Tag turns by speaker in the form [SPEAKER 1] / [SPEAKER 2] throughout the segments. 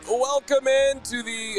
[SPEAKER 1] Welcome into the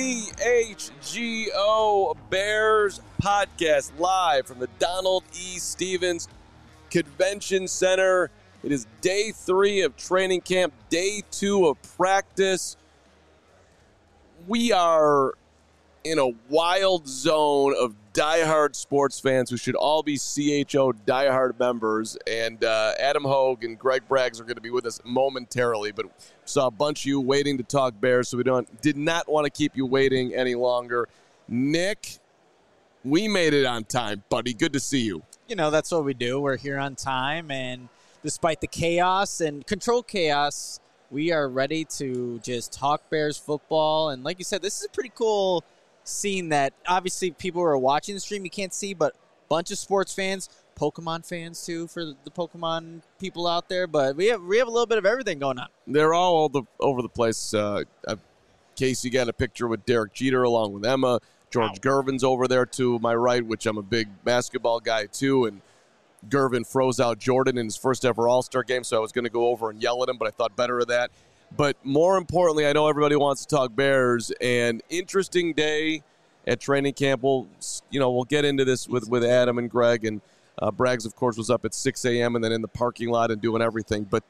[SPEAKER 1] CHGO Bears podcast live from the Donald E. Stevens Convention Center. It is day 3 of training camp, day 2 of practice. We are in a wild zone of diehard sports fans who should all be CHO diehard members. And Adam Hogue and Greg Braggs are going to be with us momentarily, but saw a bunch of you waiting to talk Bears, so did not want to keep you waiting any longer. Nick, we made it on time, buddy. Good to see you.
[SPEAKER 2] You know, that's what we do. We're here on time, and despite the chaos and controlled chaos, we are ready to just talk Bears football. And like you said, this is a pretty cool scene that obviously people who are watching the stream you can't see, but a bunch of sports fans, Pokemon fans too, for the Pokemon people out there. But we have a little bit of everything going on.
[SPEAKER 1] They're all over the place. Casey got a picture with Derek Jeter along with Emma. George Gervin's over there to my right, which I'm a big basketball guy too. And Gervin froze out Jordan in his first ever All-Star game, so I was going to go over and yell at him, but I thought better of that. But more importantly, I know everybody wants to talk Bears, and interesting day at training camp. We'll get into this with Adam and Greg, and Braggs, of course, was up at 6 a.m. and then in the parking lot and doing everything. But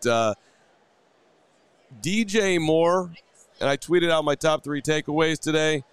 [SPEAKER 1] DJ Moore, and I tweeted out my top 3 takeaways today.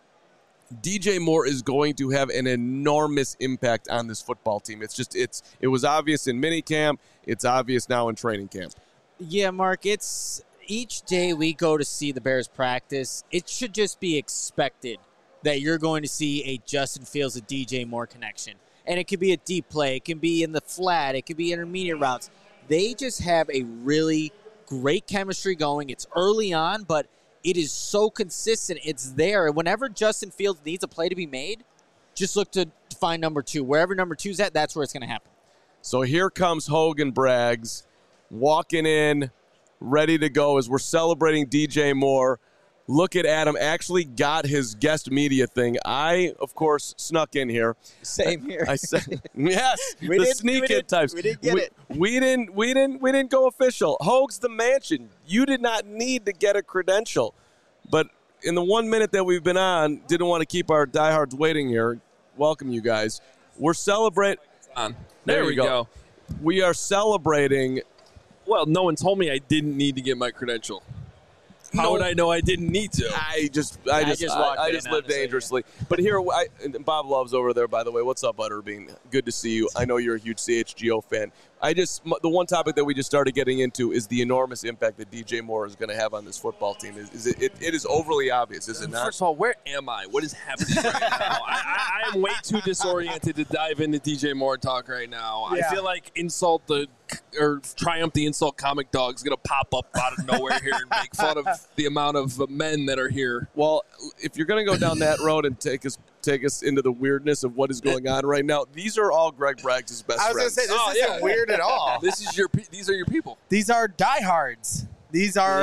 [SPEAKER 1] DJ Moore is going to have an enormous impact on this football team. It was obvious in minicamp. It's obvious now in training camp.
[SPEAKER 2] Yeah, Mark, it's each day we go to see the Bears practice, it should just be expected that you're going to see a Justin Fields, a DJ Moore connection. And it could be a deep play. It can be in the flat. It could be intermediate routes. They just have a really great chemistry going. It's early on, but it is so consistent. It's there. Whenever Justin Fields needs a play to be made, just look to find number 2. Wherever number 2's at, that's where it's going to happen.
[SPEAKER 1] So here comes Hogan Braggs walking in, ready to go as we're celebrating DJ Moore. Look at Adam, actually got his guest media thing. I, of course, snuck in here.
[SPEAKER 2] Same here.
[SPEAKER 1] I said, yes, the sneak in types.
[SPEAKER 2] We didn't get it.
[SPEAKER 1] We didn't go official. Hogue's the mansion. You did not need to get a credential. But in the 1 minute that we've been on, didn't want to keep our diehards waiting here. Welcome, you guys. We're celebrating.
[SPEAKER 3] There we go.
[SPEAKER 1] We are celebrating.
[SPEAKER 3] Well, no one told me I didn't need to get my credential. How would I know I didn't need to?
[SPEAKER 1] I just live dangerously. But here, Bob Love's over there, by the way. What's up, Butterbean? Good to see you. I know you're a huge CHGO fan. The one topic that we just started getting into is the enormous impact that DJ Moore is going to have on this football team. It is overly obvious, is it not?
[SPEAKER 3] First of all, where am I? What is happening right now? I am way too disoriented to dive into DJ Moore talk right now. Yeah. I feel like Triumph the Insult Comic Dog is going to pop up out of nowhere here and make fun of the amount of men that are here.
[SPEAKER 1] Well, if you're going to go down that road and take us into the weirdness of what is going on right now, these are all Greg Braggs' best friends.
[SPEAKER 4] I was going to say, this isn't weird at all.
[SPEAKER 3] These are your people.
[SPEAKER 4] These are diehards. These are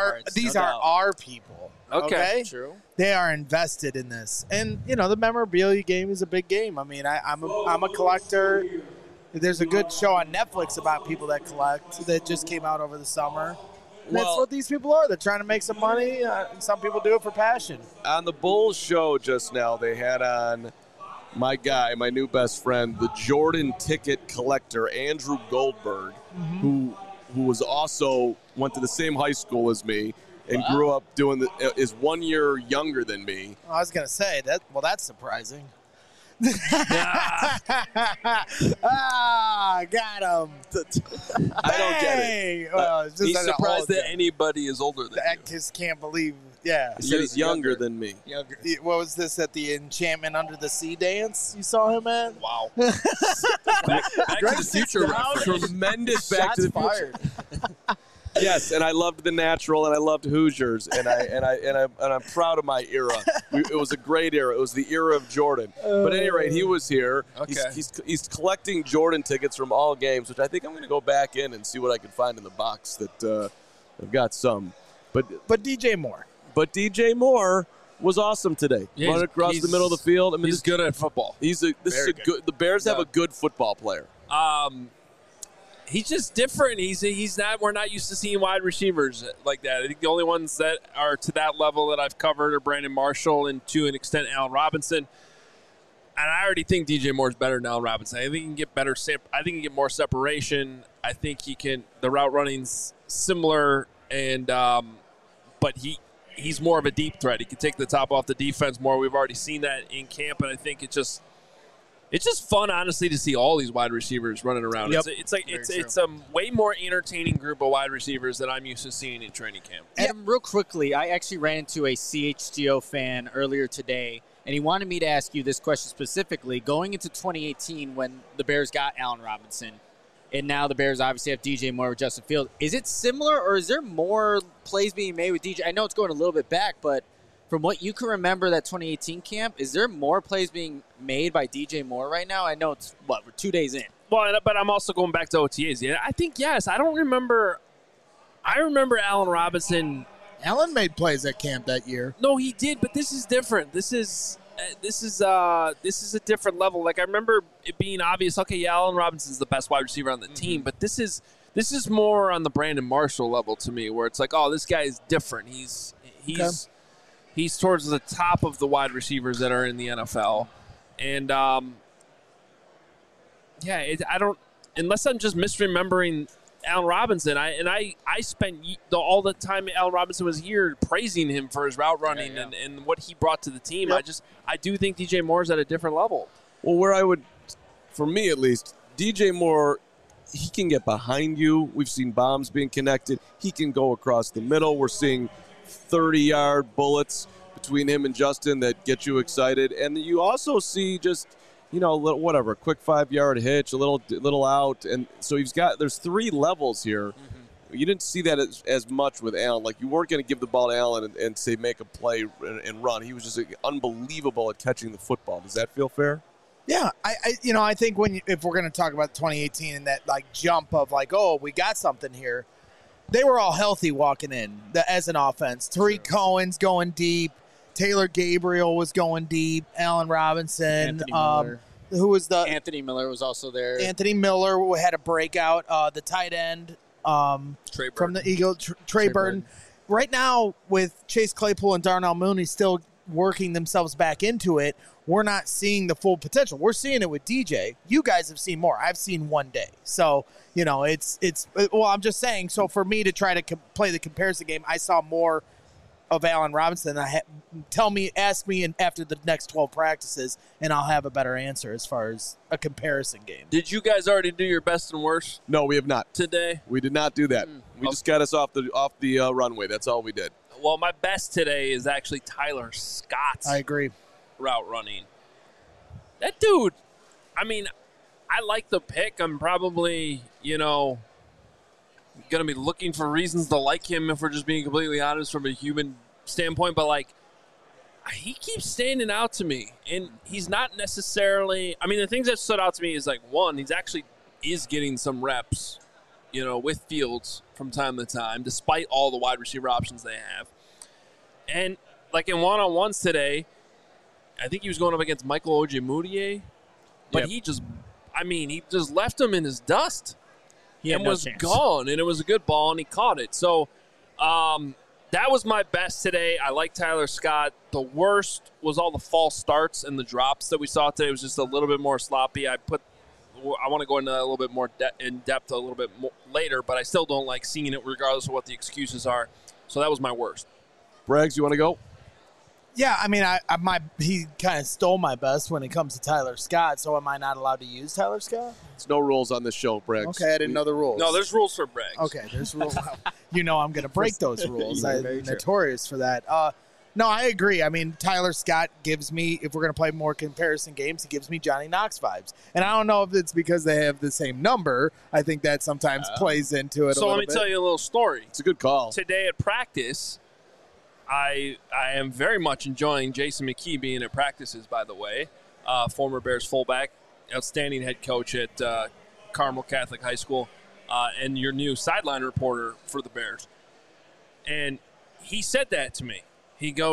[SPEAKER 4] our people.
[SPEAKER 3] Okay.
[SPEAKER 2] True.
[SPEAKER 4] They are invested in this. And, the memorabilia game is a big game. I mean, I'm a collector. There's a good show on Netflix about people that collect that just came out over the summer. That's what these people are. They're trying to make some money. Some people do it for passion.
[SPEAKER 1] On the Bulls show just now, they had on my new best friend, the Jordan ticket collector, Andrew Goldberg, who was also went to the same high school as me and grew up is 1 year younger than me.
[SPEAKER 4] I was going to say that. Well, that's surprising. Got him.
[SPEAKER 1] I don't get it.
[SPEAKER 4] Well,
[SPEAKER 3] he's surprised that anybody is older than you.
[SPEAKER 4] I just can't believe. Yeah.
[SPEAKER 1] He said he's younger than me.
[SPEAKER 4] What was this at the Enchantment Under the Sea dance you saw him at?
[SPEAKER 3] Wow. back to the Future reference.
[SPEAKER 1] Tremendous Back to the Future. Yes, and I loved The Natural, and I loved Hoosiers, and I'm proud of my era. It was a great era. It was the era of Jordan. But at any rate, he was here.
[SPEAKER 3] Okay.
[SPEAKER 1] He's collecting Jordan tickets from all games, which I think I'm going to go back in and see what I can find in the box. That I've got some. But
[SPEAKER 4] DJ Moore.
[SPEAKER 1] But DJ Moore was awesome today.
[SPEAKER 3] Yeah,
[SPEAKER 1] running across the middle of the field. I mean,
[SPEAKER 3] he's good at football.
[SPEAKER 1] The Bears have a good football player.
[SPEAKER 3] He's just different. He's not. We're not used to seeing wide receivers like that. I think the only ones that are to that level that I've covered are Brandon Marshall and to an extent Allen Robinson. And I already think DJ Moore's better than Allen Robinson. I think he can get better. I think he can get more separation. I think he can. The route running's similar, and but he's more of a deep threat. He can take the top off the defense more. We've already seen that in camp, and I think it's just fun, honestly, to see all these wide receivers running around.
[SPEAKER 2] Yep.
[SPEAKER 3] It's a way more entertaining group of wide receivers than I'm used to seeing in training camp.
[SPEAKER 2] Adam, real quickly, I actually ran into a CHGO fan earlier today, and he wanted me to ask you this question specifically. Going into 2018 when the Bears got Allen Robinson, and now the Bears obviously have DJ Moore with Justin Fields, is it similar or is there more plays being made with DJ? I know it's going a little bit back, but from what you can remember that 2018 camp, is there more plays being made by DJ Moore right now? I know it's, we're 2 days in.
[SPEAKER 3] Well, but I'm also going back to OTAs. Yeah, I think, yes. I don't remember. I remember Allen Robinson.
[SPEAKER 4] Allen made plays at camp that year.
[SPEAKER 3] No, he did, but this is different. This is a different level. Like, I remember it being obvious, okay, yeah, Allen Robinson's the best wide receiver on the team, but this is more on the Brandon Marshall level to me, where it's like, oh, this guy is different. He's towards the top of the wide receivers that are in the NFL. And, I don't – unless I'm just misremembering Allen Robinson. I spent all the time Allen Robinson was here praising him for his route running and what he brought to the team.
[SPEAKER 4] Yep.
[SPEAKER 3] I do think DJ Moore's at a different level.
[SPEAKER 1] Well, where I would – for me at least, DJ Moore – he can get behind you. We've seen bombs being connected. He can go across the middle. We're seeing 30-yard bullets between him and Justin that get you excited. And you also see just, a quick 5-yard hitch, a little out. And so there's 3 levels here. Mm-hmm. You didn't see that as much with Allen. Like, you weren't going to give the ball to Allen and say make a play and run. He was just unbelievable at catching the football. Does that feel fair?
[SPEAKER 4] Yeah, I think if we're going to talk about 2018 and that jump of we got something here, they were all healthy walking in as an offense. Tariq Cohen's going deep, Taylor Gabriel was going deep, Allen Robinson,
[SPEAKER 2] Anthony Miller.
[SPEAKER 4] Who was
[SPEAKER 2] Anthony Miller was also there.
[SPEAKER 4] Anthony Miller had a breakout. The tight end from the Eagles, Trey Burton. Right now with Chase Claypool and Darnell Mooney still working themselves back into it, we're not seeing the full potential. We're seeing it with DJ. You guys have seen more. I've seen one day. So, I'm just saying, so for me to try to play the comparison game, I saw more of Allen Robinson. Ask me after the next 12 practices, and I'll have a better answer as far as a comparison game.
[SPEAKER 3] Did you guys already do your best and worst?
[SPEAKER 1] No, we have not.
[SPEAKER 3] Today?
[SPEAKER 1] We did not do that. We just got us off the runway. That's all we did.
[SPEAKER 3] Well, my best today is actually Tyler Scott.
[SPEAKER 4] I agree.
[SPEAKER 3] Route running. That dude, I like the pick. I'm probably, going to be looking for reasons to like him if we're just being completely honest from a human standpoint. But, he keeps standing out to me. And he's not necessarily – the things that stood out to me is, one, he's actually is getting some reps, with Fields from time to time, despite all the wide receiver options they have. And, in one-on-ones today – I think he was going up against Michael Ojemudia, but he just left him in his dust and was gone, and it was a good ball, and he caught it. So that was my best today. I like Tyler Scott. The worst was all the false starts and the drops that we saw today. It was just a little bit more sloppy. I want to go into that a little bit more in depth a little bit more later, but I still don't like seeing it regardless of what the excuses are. So that was my worst.
[SPEAKER 1] Braggs, you want to go?
[SPEAKER 4] Yeah, he kind of stole my best when it comes to Tyler Scott, so am I not allowed to use Tyler Scott?
[SPEAKER 1] There's no rules on this show, Braggs.
[SPEAKER 4] Okay, I didn't know the rules.
[SPEAKER 3] No, there's rules for Braggs.
[SPEAKER 4] Okay, there's rules. I'm going to break those rules. I'm notorious for that. No, I agree. Tyler Scott gives me, if we're going to play more comparison games, he gives me Johnny Knox vibes. And I don't know if it's because they have the same number. I think that sometimes plays into it a little bit.
[SPEAKER 3] So let me tell you a little story.
[SPEAKER 1] It's a good call.
[SPEAKER 3] Today at practice, I am very much enjoying Jason McKee being at practices, by the way. Former Bears fullback, outstanding head coach at Carmel Catholic High School, and your new sideline reporter for the Bears. And he said that to me. He goes,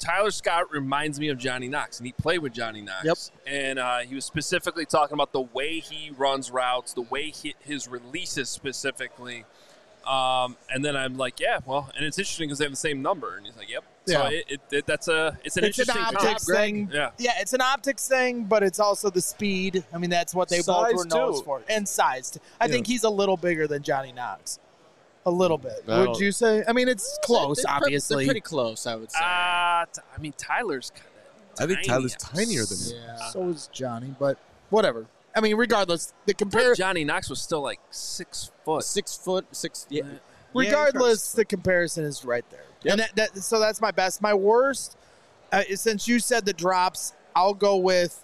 [SPEAKER 3] Tyler Scott reminds me of Johnny Knox, and he played with Johnny Knox.
[SPEAKER 4] Yep.
[SPEAKER 3] And he was specifically talking about the way he runs routes, the way his releases specifically. And then I'm like, yeah, well, and it's interesting because they have the same number. And he's like, yep.
[SPEAKER 4] Yeah.
[SPEAKER 3] So it's an interesting
[SPEAKER 4] optics thing.
[SPEAKER 3] Yeah.
[SPEAKER 4] Yeah, it's an optics thing, but it's also the speed. I mean, that's what they both were known for. And size. I think he's a little bigger than Johnny Knox. A little bit. Would you say? I mean, it's close, obviously.
[SPEAKER 2] They're pretty close, I would say.
[SPEAKER 3] I mean, Tyler's kind of
[SPEAKER 1] I think Tyler's tinier than him.
[SPEAKER 2] Yeah.
[SPEAKER 4] So is Johnny, but whatever. I mean, regardless, the
[SPEAKER 3] I
[SPEAKER 4] compare.
[SPEAKER 3] thought Johnny Knox was still like 6 foot.
[SPEAKER 2] 6 foot, 6. Yeah.
[SPEAKER 4] Regardless, the comparison is right there.
[SPEAKER 2] Yep.
[SPEAKER 4] And so that's my best. My worst, since you said the drops, I'll go with,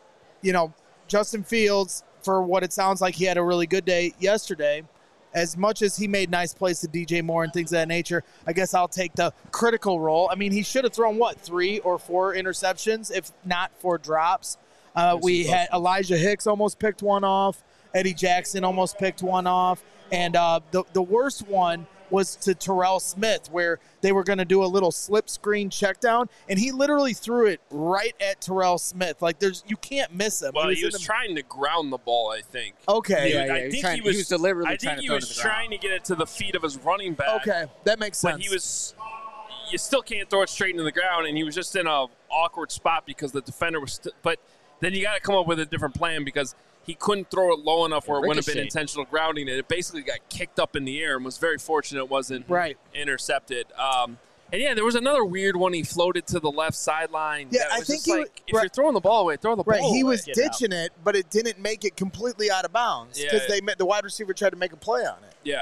[SPEAKER 4] Justin Fields for what it sounds like he had a really good day yesterday. As much as he made nice plays to DJ Moore and things of that nature, I guess I'll take the critical role. I mean, he should have thrown, 3 or 4 interceptions, if not 4 drops. We had Elijah Hicks almost picked one off. Eddie Jackson almost picked one off. And the worst one was to Terrell Smith, where they were going to do a little slip screen check down, and he literally threw it right at Terrell Smith. Like, you can't miss him.
[SPEAKER 3] Well, he was trying to ground the ball, I think.
[SPEAKER 4] Okay.
[SPEAKER 2] Yeah,
[SPEAKER 3] I think he was
[SPEAKER 2] deliberately
[SPEAKER 3] I
[SPEAKER 2] trying
[SPEAKER 3] think
[SPEAKER 2] to
[SPEAKER 3] he
[SPEAKER 2] throw
[SPEAKER 3] was
[SPEAKER 2] it to the ground.
[SPEAKER 3] trying to get it to the feet of his running back.
[SPEAKER 4] Okay, that makes sense.
[SPEAKER 3] But you still can't throw it straight into the ground, and he was just in a awkward spot because the defender was but then you got to come up with a different plan because he couldn't throw it low enough where it wouldn't have been intentional grounding, and it basically got kicked up in the air and was very fortunate it wasn't intercepted. And yeah, there was another weird one. He floated to the left sideline.
[SPEAKER 4] Yeah,
[SPEAKER 3] that was
[SPEAKER 4] I think
[SPEAKER 3] just if you're throwing the ball away, throw the ball away.
[SPEAKER 4] He was ditching it, but it didn't make it completely out of bounds because the wide receiver tried to make a play on it.
[SPEAKER 3] Yeah.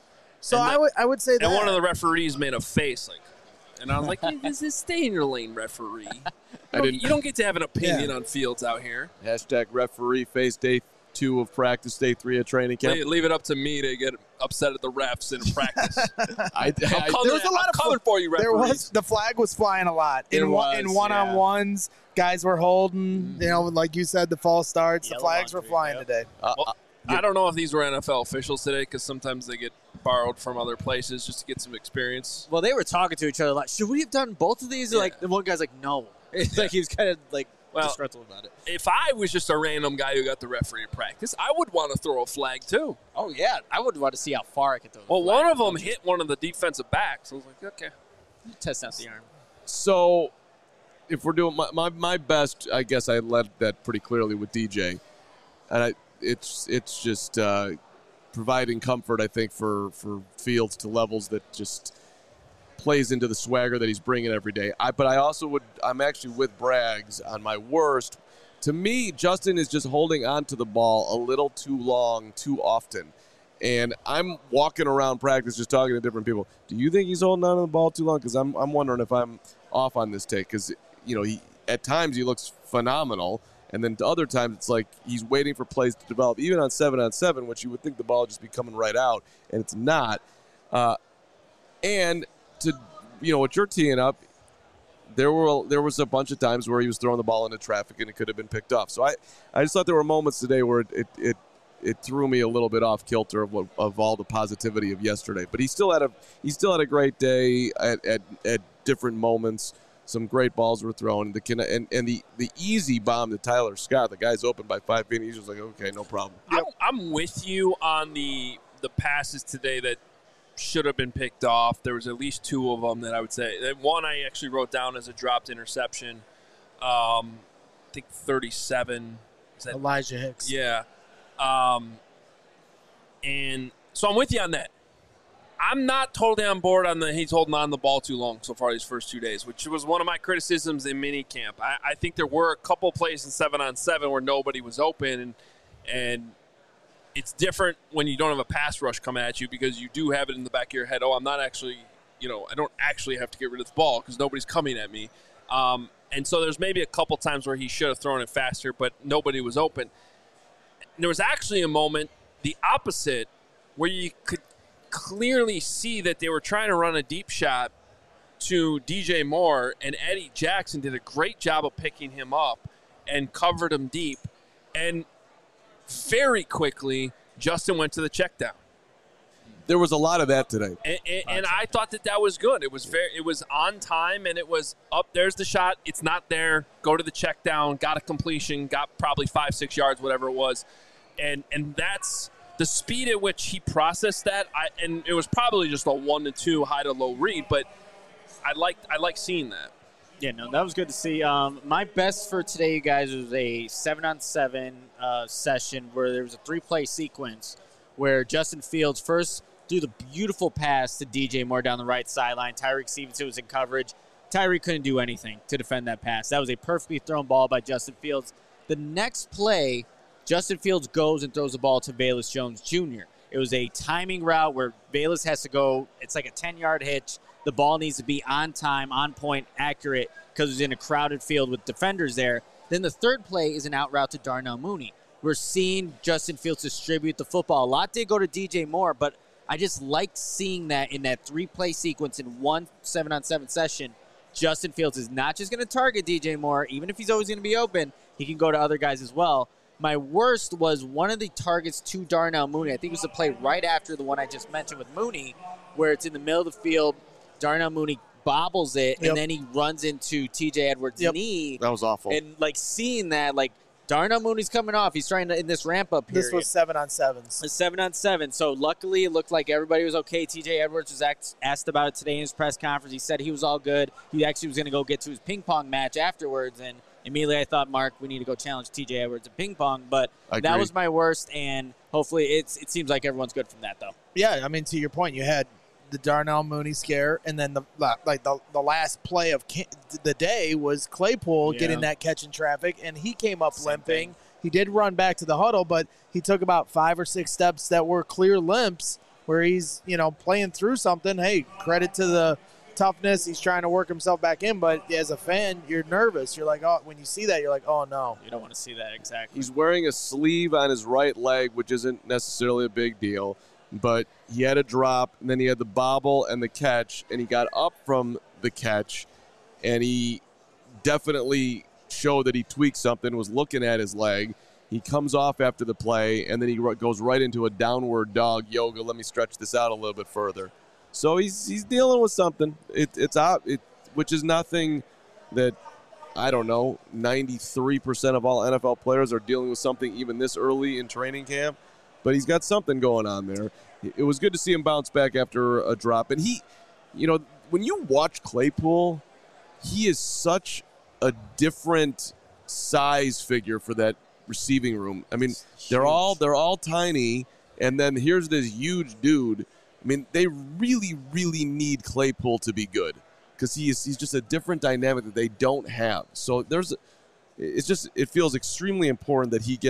[SPEAKER 4] So I would say that.
[SPEAKER 3] And one of the referees made a face and I was like, stay in your lane, referee. You don't get to have an opinion on Fields out here.
[SPEAKER 1] Hashtag referee face day 2 of practice, day 3 of training camp.
[SPEAKER 3] Leave it up to me to get upset at the refs in practice.
[SPEAKER 4] There was a lot of
[SPEAKER 3] coming for you, referees.
[SPEAKER 4] The flag was flying a lot. In one-on-ones, guys were holding, like you said, the false starts. The flags were flying today.
[SPEAKER 3] I don't know if these were NFL officials today because sometimes they get borrowed from other places just to get some experience.
[SPEAKER 2] Well, they were talking to each other like, should we have done both of these? Like, the one guy's like, no. It's like he was kind of like disgruntled about it.
[SPEAKER 3] If I was just a random guy who got the referee at practice, I would want to throw a flag too.
[SPEAKER 2] Oh, yeah. I would want to see how far I could throw the flag.
[SPEAKER 3] One of them hit one of the defensive backs. I was like, okay.
[SPEAKER 2] Test out the arm.
[SPEAKER 1] So if we're doing my best, I guess I led that pretty clearly with DJ. And it's just providing comfort, I think, for Fields to levels that just plays into the swagger that he's bringing every day. But I also I'm actually with Braggs on my worst. To me, Justin is just holding on to the ball a little too long, too often. And I'm walking around practice just talking to different people. Do you think he's holding on to the ball too long? Because I'm wondering if I'm off on this take. Because, at times he looks phenomenal. And then to other times, it's like he's waiting for plays to develop, even on 7-on-7, which you would think the ball would just be coming right out, and it's not. And to what you're teeing up, there was a bunch of times where he was throwing the ball into traffic and it could have been picked off. So I just thought there were moments today where it threw me a little bit off kilter of all the positivity of yesterday. But he still had a great day at different moments. Some great balls were thrown. The easy bomb to Tyler Scott, the guy's open by 5 feet. He's just like, okay, no problem.
[SPEAKER 3] I'm with you on the passes today that should have been picked off. There was at least 2 of them that I would say. One I actually wrote down as a dropped interception. I think 37. Is that
[SPEAKER 4] Elijah Hicks?
[SPEAKER 3] Yeah. And so I'm with you on that. I'm not totally on board on he's holding on the ball too long so far these first 2 days, which was one of my criticisms in minicamp. I think there were a couple plays in 7-on-7 where nobody was open, and it's different when you don't have a pass rush coming at you because you do have it in the back of your head. Oh, I'm not actually, I don't actually have to get rid of the ball because nobody's coming at me. And so there's maybe a couple times where he should have thrown it faster, but nobody was open. And there was actually a moment, the opposite, where you could clearly see that they were trying to run a deep shot to DJ Moore, and Eddie Jackson did a great job of picking him up and covered him deep. And very quickly, Justin went to the check down.
[SPEAKER 1] there was a lot of that today.
[SPEAKER 3] And I thought that was good. It was on time, and it was up. There's the shot. It's not there. Go to the check down. Got a completion. Got probably 5-6 yards, whatever it was. And that's the speed at which he processed that. And it was probably just a 1-2 high to low read, but I like seeing that.
[SPEAKER 2] Yeah, no, that was good to see. My best for today, you guys, was a 7-on-7 session where there was a 3-play sequence where Justin Fields first threw the beautiful pass to DJ Moore down the right sideline. Tyreek Stevenson was in coverage. Tyreek couldn't do anything to defend that pass. That was a perfectly thrown ball by Justin Fields. The next play, Justin Fields goes and throws the ball to Velus Jones Jr. It was a timing route where Velus has to go. It's like a 10-yard hitch. The ball needs to be on time, on point, accurate, because it's in a crowded field with defenders there. Then the third play is an out route to Darnell Mooney. We're seeing Justin Fields distribute the football. A lot did go to DJ Moore, but I just liked seeing that in that 3-play sequence in one 7-on-7 session. Justin Fields is not just going to target DJ Moore. Even if he's always going to be open, he can go to other guys as well. My worst was one of the targets to Darnell Mooney. I think it was the play right after the one I just mentioned with Mooney, where it's in the middle of the field. Darnell Mooney bobbles it, and then he runs into T.J. Edwards' knee.
[SPEAKER 1] That was awful.
[SPEAKER 2] And, seeing that, Darnell Mooney's coming off. He's trying to, in this ramp-up period.
[SPEAKER 4] This was 7-on-7s.
[SPEAKER 2] It's 7-on-7. So, luckily, it looked like everybody was okay. T.J. Edwards was asked about it today in his press conference. He said he was all good. He actually was going to go get to his ping-pong match afterwards, and immediately I thought, Mark, we need to go challenge T.J. Edwards in ping-pong. But that was my worst, and hopefully it seems like everyone's good from that, though.
[SPEAKER 4] Yeah, I mean, to your point, you had the Darnell Mooney scare, and then the last play of the day was Claypool getting that catch in traffic, and he came up limping. He did run back to the huddle, but he took about 5 or 6 steps that were clear limps where he's, playing through something. Hey, credit to the toughness. He's trying to work himself back in, but as a fan, you're nervous. You're like, oh, when you see that, you're like, oh, no.
[SPEAKER 2] You don't want to see that, exactly.
[SPEAKER 1] He's wearing a sleeve on his right leg, which isn't necessarily a big deal. But he had a drop, and then he had the bobble and the catch, and he got up from the catch, and he definitely showed that he tweaked something, was looking at his leg. He comes off after the play, and then he goes right into a downward dog yoga. Let me stretch this out a little bit further. So he's dealing with something. It's out, which is nothing that, I don't know, 93% of all NFL players are dealing with something even this early in training camp. But he's got something going on there. It was good to see him bounce back after a drop. And he, when you watch Claypool, he is such a different size figure for that receiving room. I mean, they're all tiny, and then here's this huge dude. I mean, they really, really need Claypool to be good because he's just a different dynamic that they don't have. So it feels extremely important that he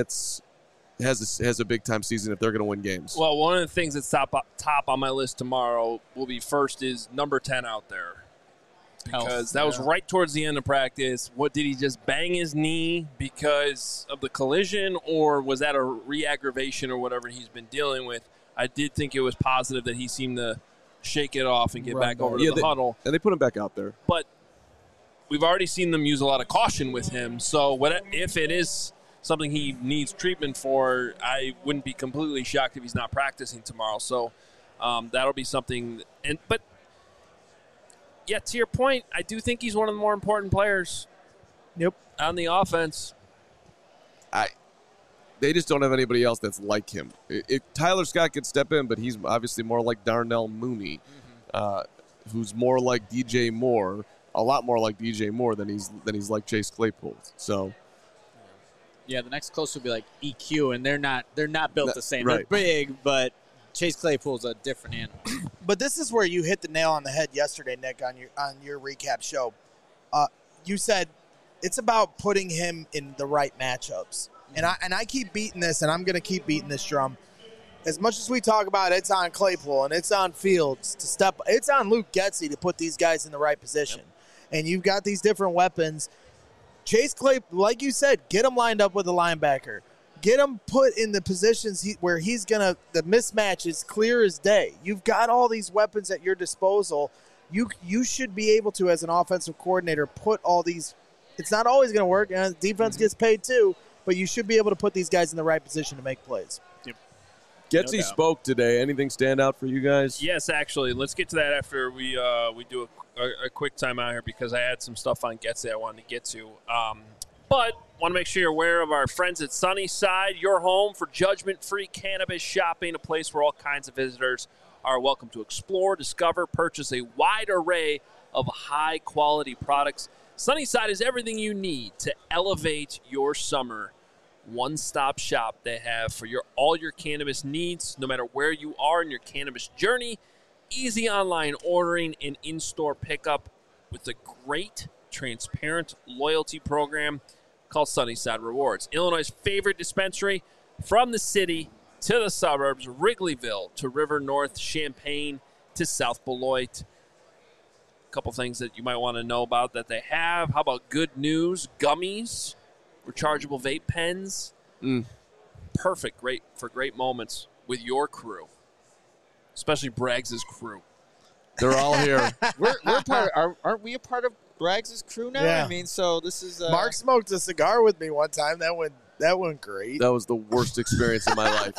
[SPEAKER 1] has a big time season if they're going to win games.
[SPEAKER 3] Well, one of the things that's top on my list tomorrow will be first is number 10 out there. Because that was right towards the end of practice. What, did he just bang his knee because of the collision, or was that a re-aggravation or whatever he's been dealing with? I did think it was positive that he seemed to shake it off and get back over to the huddle.
[SPEAKER 1] And they put him back out there.
[SPEAKER 3] But we've already seen them use a lot of caution with him. So if it is something he needs treatment for, I wouldn't be completely shocked if he's not practicing tomorrow. So that'll be something. But yeah, to your point, I do think he's one of the more important players.
[SPEAKER 4] Yep.
[SPEAKER 3] On the offense.
[SPEAKER 1] They just don't have anybody else that's like him. Tyler Scott could step in, but he's obviously more like Darnell Mooney, who's more like DJ Moore, a lot more like DJ Moore than he's like Chase Claypool. So.
[SPEAKER 2] Yeah, the next close would be like EQ, and they're not built the same.
[SPEAKER 1] Right.
[SPEAKER 2] They're big, but Chase Claypool's a different animal.
[SPEAKER 4] But this is where you hit the nail on the head yesterday, Nick, on your recap show. You said it's about putting him in the right matchups. And I keep beating this, and I'm going to keep beating this drum. As much as we talk about it's on Claypool and it's on Fields to step, it's on Luke Getsy to put these guys in the right position. Yep. And you've got these different weapons. Chase Claypool, like you said, get him lined up with a linebacker. Get him put in the positions where he's going to – the mismatch is clear as day. You've got all these weapons at your disposal. You should be able to, as an offensive coordinator, put all these – it's not always going to work, and defense gets paid too, but you should be able to put these guys in the right position to make plays.
[SPEAKER 2] Yep.
[SPEAKER 1] Getsy spoke today. Anything stand out for you guys?
[SPEAKER 3] Yes, actually. Let's get to that after we do a quick time out here because I had some stuff on Getsy I wanted to get to. But want to make sure you're aware of our friends at Sunnyside, your home for judgment-free cannabis shopping, a place where all kinds of visitors are welcome to explore, discover, purchase a wide array of high-quality products. Sunnyside is everything you need to elevate your summer. One-stop shop they have for all your cannabis needs, no matter where you are in your cannabis journey. Easy online ordering and in-store pickup with a great, transparent loyalty program called Sunnyside Rewards. Illinois' favorite dispensary, from the city to the suburbs, Wrigleyville to River North, Champaign to South Beloit. A couple things that you might want to know about that they have. How about good news? Gummies, rechargeable vape pens. Perfect, great for great moments with your crew, especially Braggs' crew.
[SPEAKER 1] They're all here.
[SPEAKER 2] We're aren't we a part of Braggs' crew now?
[SPEAKER 4] Yeah.
[SPEAKER 2] I mean, so this is
[SPEAKER 4] Mark smoked a cigar with me one time. That went great.
[SPEAKER 1] That was the worst experience of my life.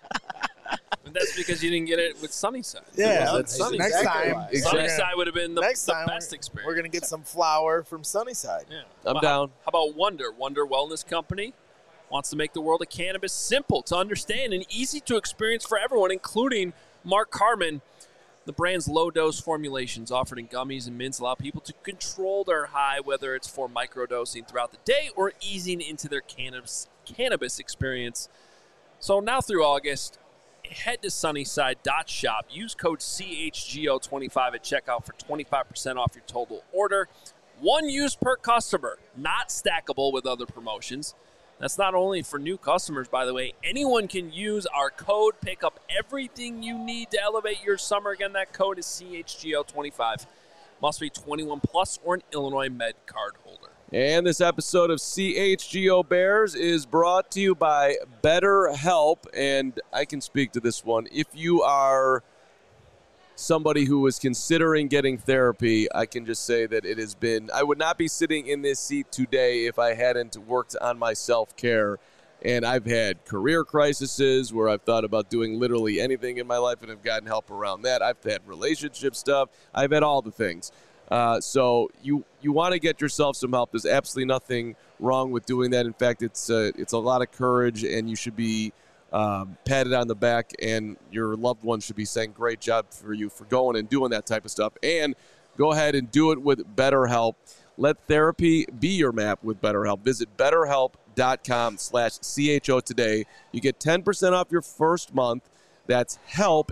[SPEAKER 3] And that's because you didn't get it with Sunnyside.
[SPEAKER 4] Yeah,
[SPEAKER 1] That's
[SPEAKER 4] next time.
[SPEAKER 3] Sunnyside would have been the
[SPEAKER 4] Next time,
[SPEAKER 3] best experience.
[SPEAKER 4] We're gonna get some flour from Sunnyside.
[SPEAKER 3] Yeah.
[SPEAKER 1] I'm down.
[SPEAKER 3] How about Wonder? Wonder Wellness Company wants to make the world of cannabis simple to understand and easy to experience for everyone, including Mark Carman. The brand's low-dose formulations offered in gummies and mints allow people to control their high, whether it's for microdosing throughout the day or easing into their cannabis experience. So now through August, head to sunnyside.shop. Use code CHGO25 at checkout for 25% off your total order. One use per customer, not stackable with other promotions. That's not only for new customers, by the way. Anyone can use our code, pick up everything you need to elevate your summer. Again, that code is CHGO25. Must be 21 plus or an Illinois Med card holder.
[SPEAKER 1] And this episode of CHGO Bears is brought to you by BetterHelp. And I can speak to this one. If you are somebody who is considering getting therapy, I can just say that it has been, I would not be sitting in this seat today if I hadn't worked on my self-care. And I've had career crises where I've thought about doing literally anything in my life and have gotten help around that. I've had relationship stuff. I've had all the things. So you want to get yourself some help. There's absolutely nothing wrong with doing that. In fact, it's a lot of courage, and you should be patted on the back, and your loved ones should be saying, great job for you for going and doing that type of stuff. And go ahead and do it with BetterHelp. Let therapy be your map with BetterHelp. Visit BetterHelp.com/CHO today. You get 10% off your first month. That's help,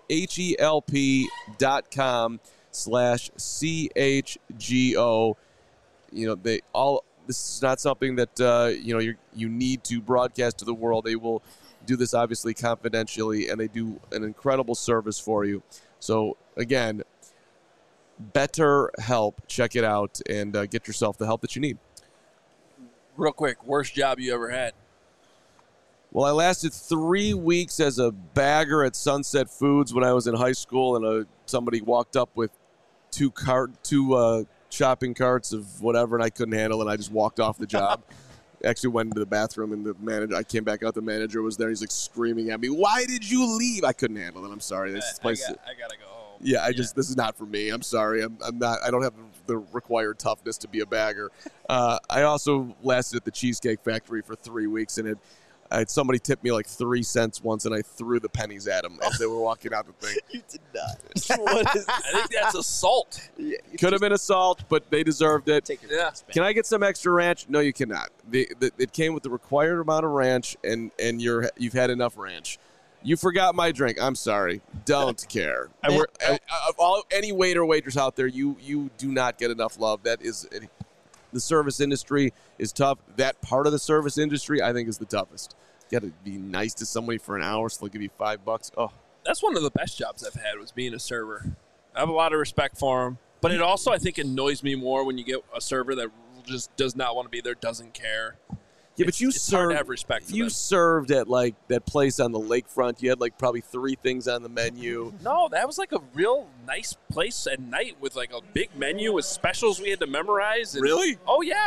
[SPEAKER 1] HELP.com/CHGO. You know, this is not something that, you need to broadcast to the world. They will do this obviously confidentially, and they do an incredible service for you. So again, BetterHelp, check it out and get yourself the help that you need.
[SPEAKER 3] Real quick, worst job you ever had?
[SPEAKER 1] Well, I lasted 3 weeks as a bagger at Sunset Foods when I was in high school, and somebody walked up with two shopping carts of whatever, and I couldn't handle it. I just walked off the job. Actually went into the bathroom, and I came back out. The manager was there. He's like screaming at me, "Why did you leave?" I couldn't handle it. I'm sorry. This place.
[SPEAKER 3] I gotta go home.
[SPEAKER 1] Yeah, this is not for me. I'm sorry. I'm not. I don't have the required toughness to be a bagger. I also lasted at the Cheesecake Factory for 3 weeks, and I had somebody tip me like 3 cents once, and I threw the pennies at them as they were walking out the thing.
[SPEAKER 4] You did not.
[SPEAKER 3] I think that's assault.
[SPEAKER 1] Yeah, could have been assault, but they deserved it.
[SPEAKER 3] Yeah.
[SPEAKER 1] Can I get some extra ranch? No, you cannot. It came with the required amount of ranch, and you've had enough ranch. You forgot my drink. I'm sorry. Don't care. Any waiter or waitress out there, you do not get enough love. That is, the service industry is tough. That part of the service industry, I think, is the toughest. You got to be nice to somebody for an hour, so they'll give you $5. Oh,
[SPEAKER 3] that's one of the best jobs I've had was being a server. I have a lot of respect for them, but it also, I think, annoys me more when you get a server that just does not want to be there, doesn't care.
[SPEAKER 1] Yeah, but
[SPEAKER 3] it's hard to have respect for
[SPEAKER 1] you
[SPEAKER 3] them.
[SPEAKER 1] served at like that place on the lakefront. You had like probably 3 things on the menu.
[SPEAKER 3] No, that was like a real nice place at night with like a big menu with specials we had to memorize.
[SPEAKER 1] Really?
[SPEAKER 3] Oh yeah.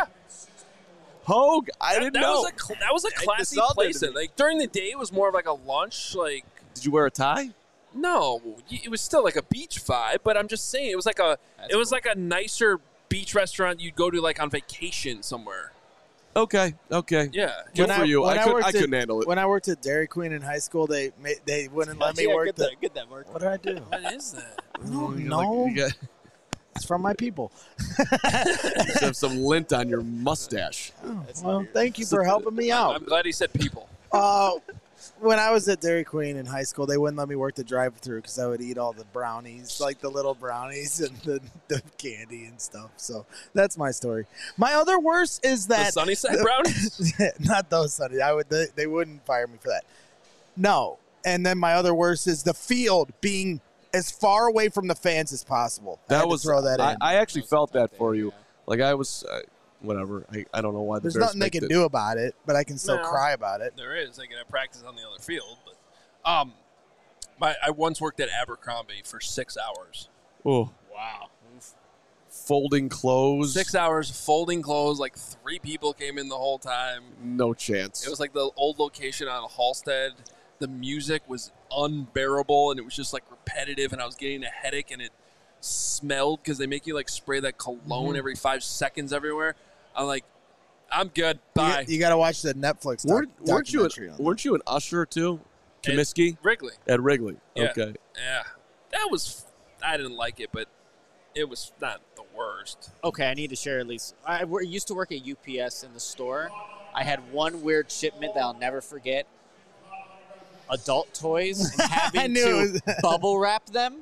[SPEAKER 1] Hogue, I didn't know.
[SPEAKER 3] That was a classy place. And like during the day, it was more of like a lunch. Like
[SPEAKER 1] Did you wear a tie?
[SPEAKER 3] No, it was still like a beach vibe, but I'm just saying it was like a like a nicer beach restaurant you'd go to like on vacation somewhere.
[SPEAKER 1] Okay.
[SPEAKER 3] Yeah.
[SPEAKER 1] Good for you. I couldn't handle it.
[SPEAKER 4] When I worked at Dairy Queen in high school, they wouldn't let me work.
[SPEAKER 2] Get that, Mark.
[SPEAKER 4] What did I do?
[SPEAKER 3] What is that?
[SPEAKER 4] No, it's from my people.
[SPEAKER 1] You have some lint on your mustache.
[SPEAKER 4] Well, thank you for helping me out.
[SPEAKER 3] I'm glad he said people.
[SPEAKER 4] When I was at Dairy Queen in high school, they wouldn't let me work the drive-thru because I would eat all the brownies, like the little brownies and the candy and stuff. So that's my story. My other worst is that
[SPEAKER 3] The Sunnyside brownies?
[SPEAKER 4] not those Sunny. They wouldn't fire me for that. No. And then my other worst is the field being as far away from the fans as possible. Throw that in.
[SPEAKER 1] I actually felt that for you. Like I was. Whatever. I don't know why the
[SPEAKER 4] There's
[SPEAKER 1] Bears
[SPEAKER 4] nothing they can do about it, but I can still cry about it.
[SPEAKER 3] There is. They can have practice on the other field. But I once worked at Abercrombie for 6 hours.
[SPEAKER 1] Oh,
[SPEAKER 2] Wow.
[SPEAKER 1] folding clothes.
[SPEAKER 3] 6 hours folding clothes. Like 3 people came in the whole time.
[SPEAKER 1] No chance.
[SPEAKER 3] It was like the old location on Halstead. The music was unbearable, and it was just like repetitive, and I was getting a headache, and it smelled because they make you like spray that cologne every 5 seconds everywhere. I'm like, I'm good. Bye.
[SPEAKER 4] You got to watch the Netflix documentary.
[SPEAKER 1] Weren't you an usher too? Comiskey?
[SPEAKER 3] Wrigley.
[SPEAKER 1] At Wrigley.
[SPEAKER 3] Yeah.
[SPEAKER 1] Okay.
[SPEAKER 3] Yeah. That was, I didn't like it, but it was not the worst.
[SPEAKER 2] Okay, I need to share at least. I used to work at UPS in the store. I had one weird shipment that I'll never forget. Adult toys and having to bubble wrap them.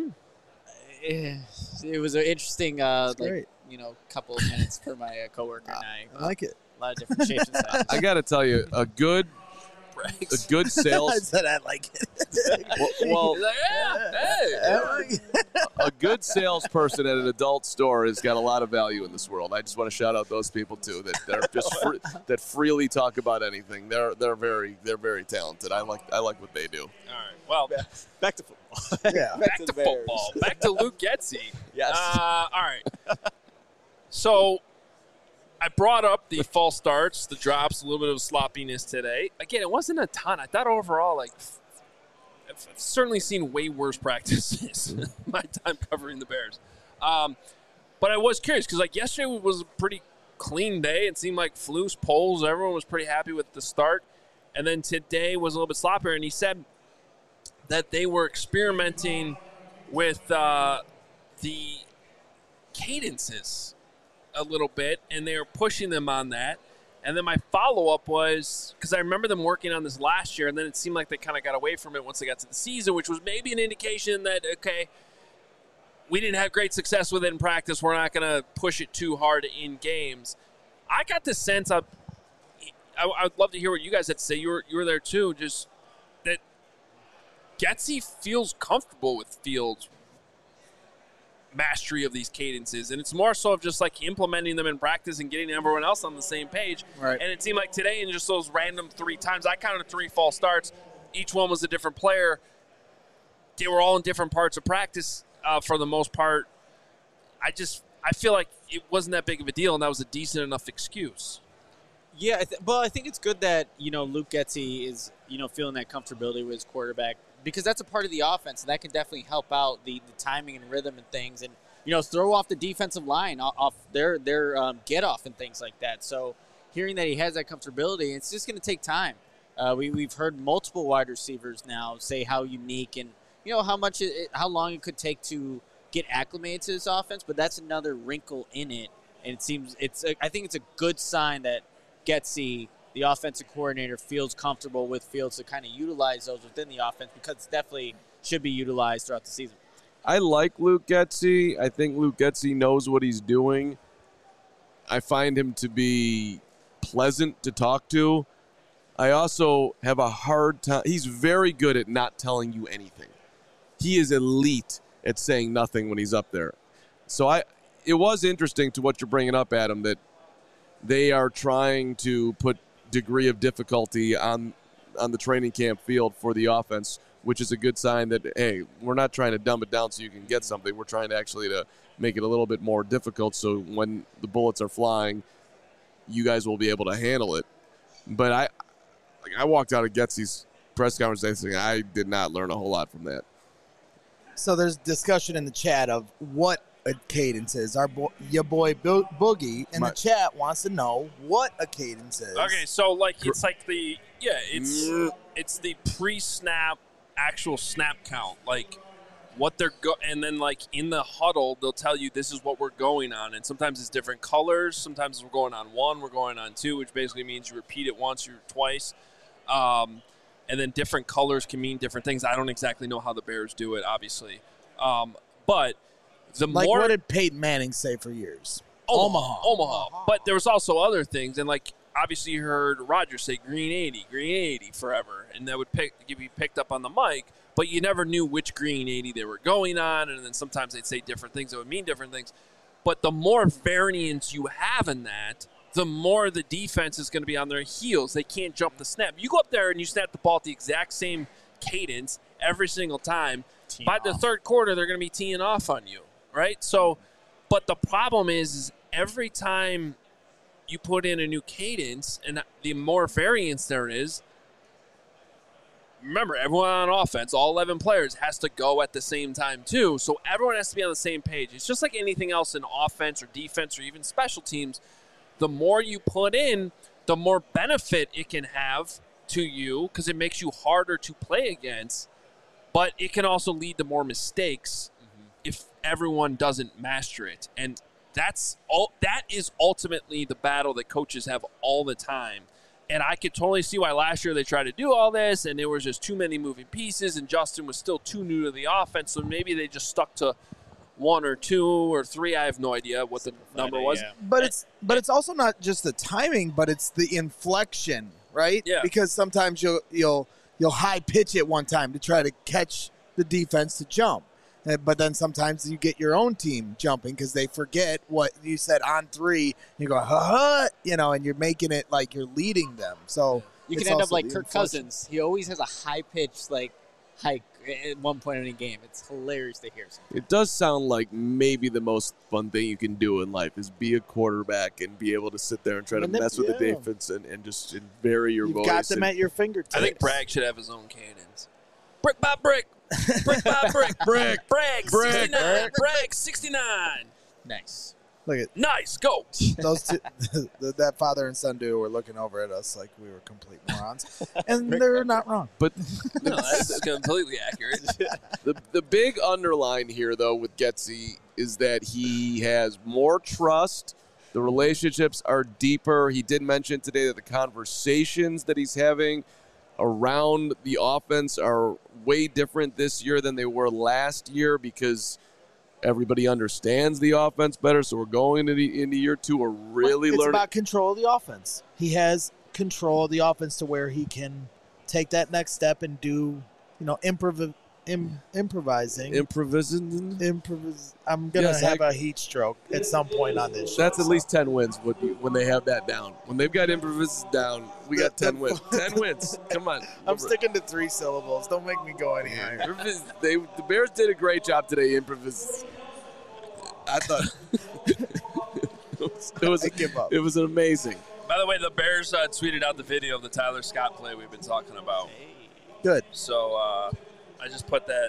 [SPEAKER 2] It was an interesting, couple of minutes for my coworker and I.
[SPEAKER 4] I like it.
[SPEAKER 2] A lot of different shapes and sizes.
[SPEAKER 1] I got to tell you, a good sales.
[SPEAKER 4] I said I like it.
[SPEAKER 1] well,
[SPEAKER 3] He's like, hey.
[SPEAKER 1] a good salesperson at an adult store has got a lot of value in this world. I just want to shout out those people too that just that freely talk about anything. They're very talented. I like what they do.
[SPEAKER 3] All right. Well,
[SPEAKER 2] Back to football.
[SPEAKER 4] Yeah.
[SPEAKER 3] back to football. Back to Luke Getsy.
[SPEAKER 2] Yes.
[SPEAKER 3] All right. So I brought up the false starts, the drops, a little bit of sloppiness today. Again, it wasn't a ton. I thought overall, I've certainly seen way worse practices my time covering the Bears. But I was curious because, yesterday was a pretty clean day. It seemed like Flus, Poles, everyone was pretty happy with the start. And then today was a little bit sloppier. And he said that they were experimenting with the cadences a little bit, and they were pushing them on that. And then my follow-up was, because I remember them working on this last year, and then it seemed like they kind of got away from it once they got to the season, which was maybe an indication that, okay, we didn't have great success with it in practice. We're not going to push it too hard in games. I got the sense I would love to hear what you guys had to say. You were there too, just that Getsy feels comfortable with Fields' mastery of these cadences, and it's more so of just implementing them in practice and getting everyone else on the same page.
[SPEAKER 4] Right.
[SPEAKER 3] And it seemed like today, in just those random 3 times, I counted 3 false starts. Each one was a different player. They were all in different parts of practice for the most part. I feel like it wasn't that big of a deal, and that was a decent enough excuse.
[SPEAKER 2] Yeah, I think it's good that, Luke Getsy is, feeling that comfortability with his quarterback, because that's a part of the offense, and that can definitely help out the timing and rhythm and things, and, throw off the defensive line, off their get-off and things like that. So hearing that he has that comfortability, it's just going to take time. We've heard multiple wide receivers now say how unique and, how long it could take to get acclimated to this offense, but that's another wrinkle in it, and I think it's a good sign that Getsy, the offensive coordinator, feels comfortable with Fields to kind of utilize those within the offense, because it definitely should be utilized throughout the season.
[SPEAKER 1] I like Luke Getsy. I think Luke Getsy knows what he's doing. I find him to be pleasant to talk to. I also have a hard time. He's very good at not telling you anything. He is elite at saying nothing when he's up there. So it was interesting to what you're bringing up, Adam, that they are trying to put degree of difficulty on the training camp field for the offense, which is a good sign that, hey, we're not trying to dumb it down so you can get something. We're trying to actually to make it a little bit more difficult so when the bullets are flying, you guys will be able to handle it. But I walked out of Getsy's press conference thing, I did not learn a whole lot from that.
[SPEAKER 4] So there's discussion in the chat of what a cadence is. Your boy Boogie in the chat wants to know what a cadence is.
[SPEAKER 3] Okay, so it's like it's the pre-snap actual snap count, like what they're and then in the huddle they'll tell you this is what we're going on, and sometimes it's different colors. Sometimes we're going on 1, we're going on 2, which basically means you repeat it once or twice. And then different colors can mean different things. I don't exactly know how the Bears do it, obviously. But the more...
[SPEAKER 4] what did Peyton Manning say for years?
[SPEAKER 3] Omaha. But there was also other things. And, obviously you heard Rodgers say green 80 forever. And that would be picked up on the mic. But you never knew which green 80 they were going on. And then sometimes they'd say different things that would mean different things. But the more variance you have in that, the more the defense is going to be on their heels. They can't jump the snap. You go up there and you snap the ball at the exact same cadence every single time. By the third quarter, they're going to be teeing off on you, right? So, but the problem is every time you put in a new cadence and the more variance there is, remember, everyone on offense, all 11 players, has to go at the same time too. So everyone has to be on the same page. It's just like anything else in offense or defense or even special teams. The more you put in, the more benefit it can have to you because it makes you harder to play against. But it can also lead to more mistakes if everyone doesn't master it. And that is ultimately the battle that coaches have all the time. And I could totally see why last year they tried to do all this, and there was just too many moving pieces, and Justin was still too new to the offense, so maybe they just stuck to 1 or 2 or 3. I have no idea what the number was.
[SPEAKER 4] Yeah. But it's also not just the timing, but it's the inflection, right?
[SPEAKER 3] Yeah.
[SPEAKER 4] Because sometimes you'll high pitch it one time to try to catch the defense to jump, but then sometimes you get your own team jumping because they forget what you said on 3. You go and you're making it like you're leading them. So
[SPEAKER 2] you can end up like Kirk Cousins. He always has a high pitch hike at one point in a game. It's hilarious to hear.
[SPEAKER 1] It does sound like maybe the most fun thing you can do in life is be a quarterback and be able to sit there and try to mess with the defense and just vary your voice.
[SPEAKER 4] You've got them at your fingertips.
[SPEAKER 3] I think Bragg should have his own cannons. Brick by brick. Brick by brick. Bragg 69. Bragg 69.
[SPEAKER 2] Nice.
[SPEAKER 4] Look at
[SPEAKER 3] nice. Go.
[SPEAKER 4] Those two, that father and son duo were looking over at us like we were complete morons, and they're not wrong.
[SPEAKER 1] But
[SPEAKER 3] no, that's completely accurate.
[SPEAKER 1] The big underline here, though, with Getsy is that he has more trust. The relationships are deeper. He did mention today that the conversations that he's having around the offense are way different this year than they were last year because everybody understands the offense better, so we're going into year 2. We're really learning. It's
[SPEAKER 4] about control of the offense. He has control of the offense to where he can take that next step and do, improvising. I'm going to have a heat stroke at some point on this show.
[SPEAKER 1] That's at least 10 wins when they have that down. When they've got improvising down, we got 10 wins. 10 wins. Come on.
[SPEAKER 4] I'm sticking to 3 syllables. Don't make me go any higher.
[SPEAKER 1] The Bears did a great job today improvising. I thought it was amazing.
[SPEAKER 3] By the way, the Bears tweeted out the video of the Tyler Scott play we've been talking about.
[SPEAKER 4] Good.
[SPEAKER 3] So I just put that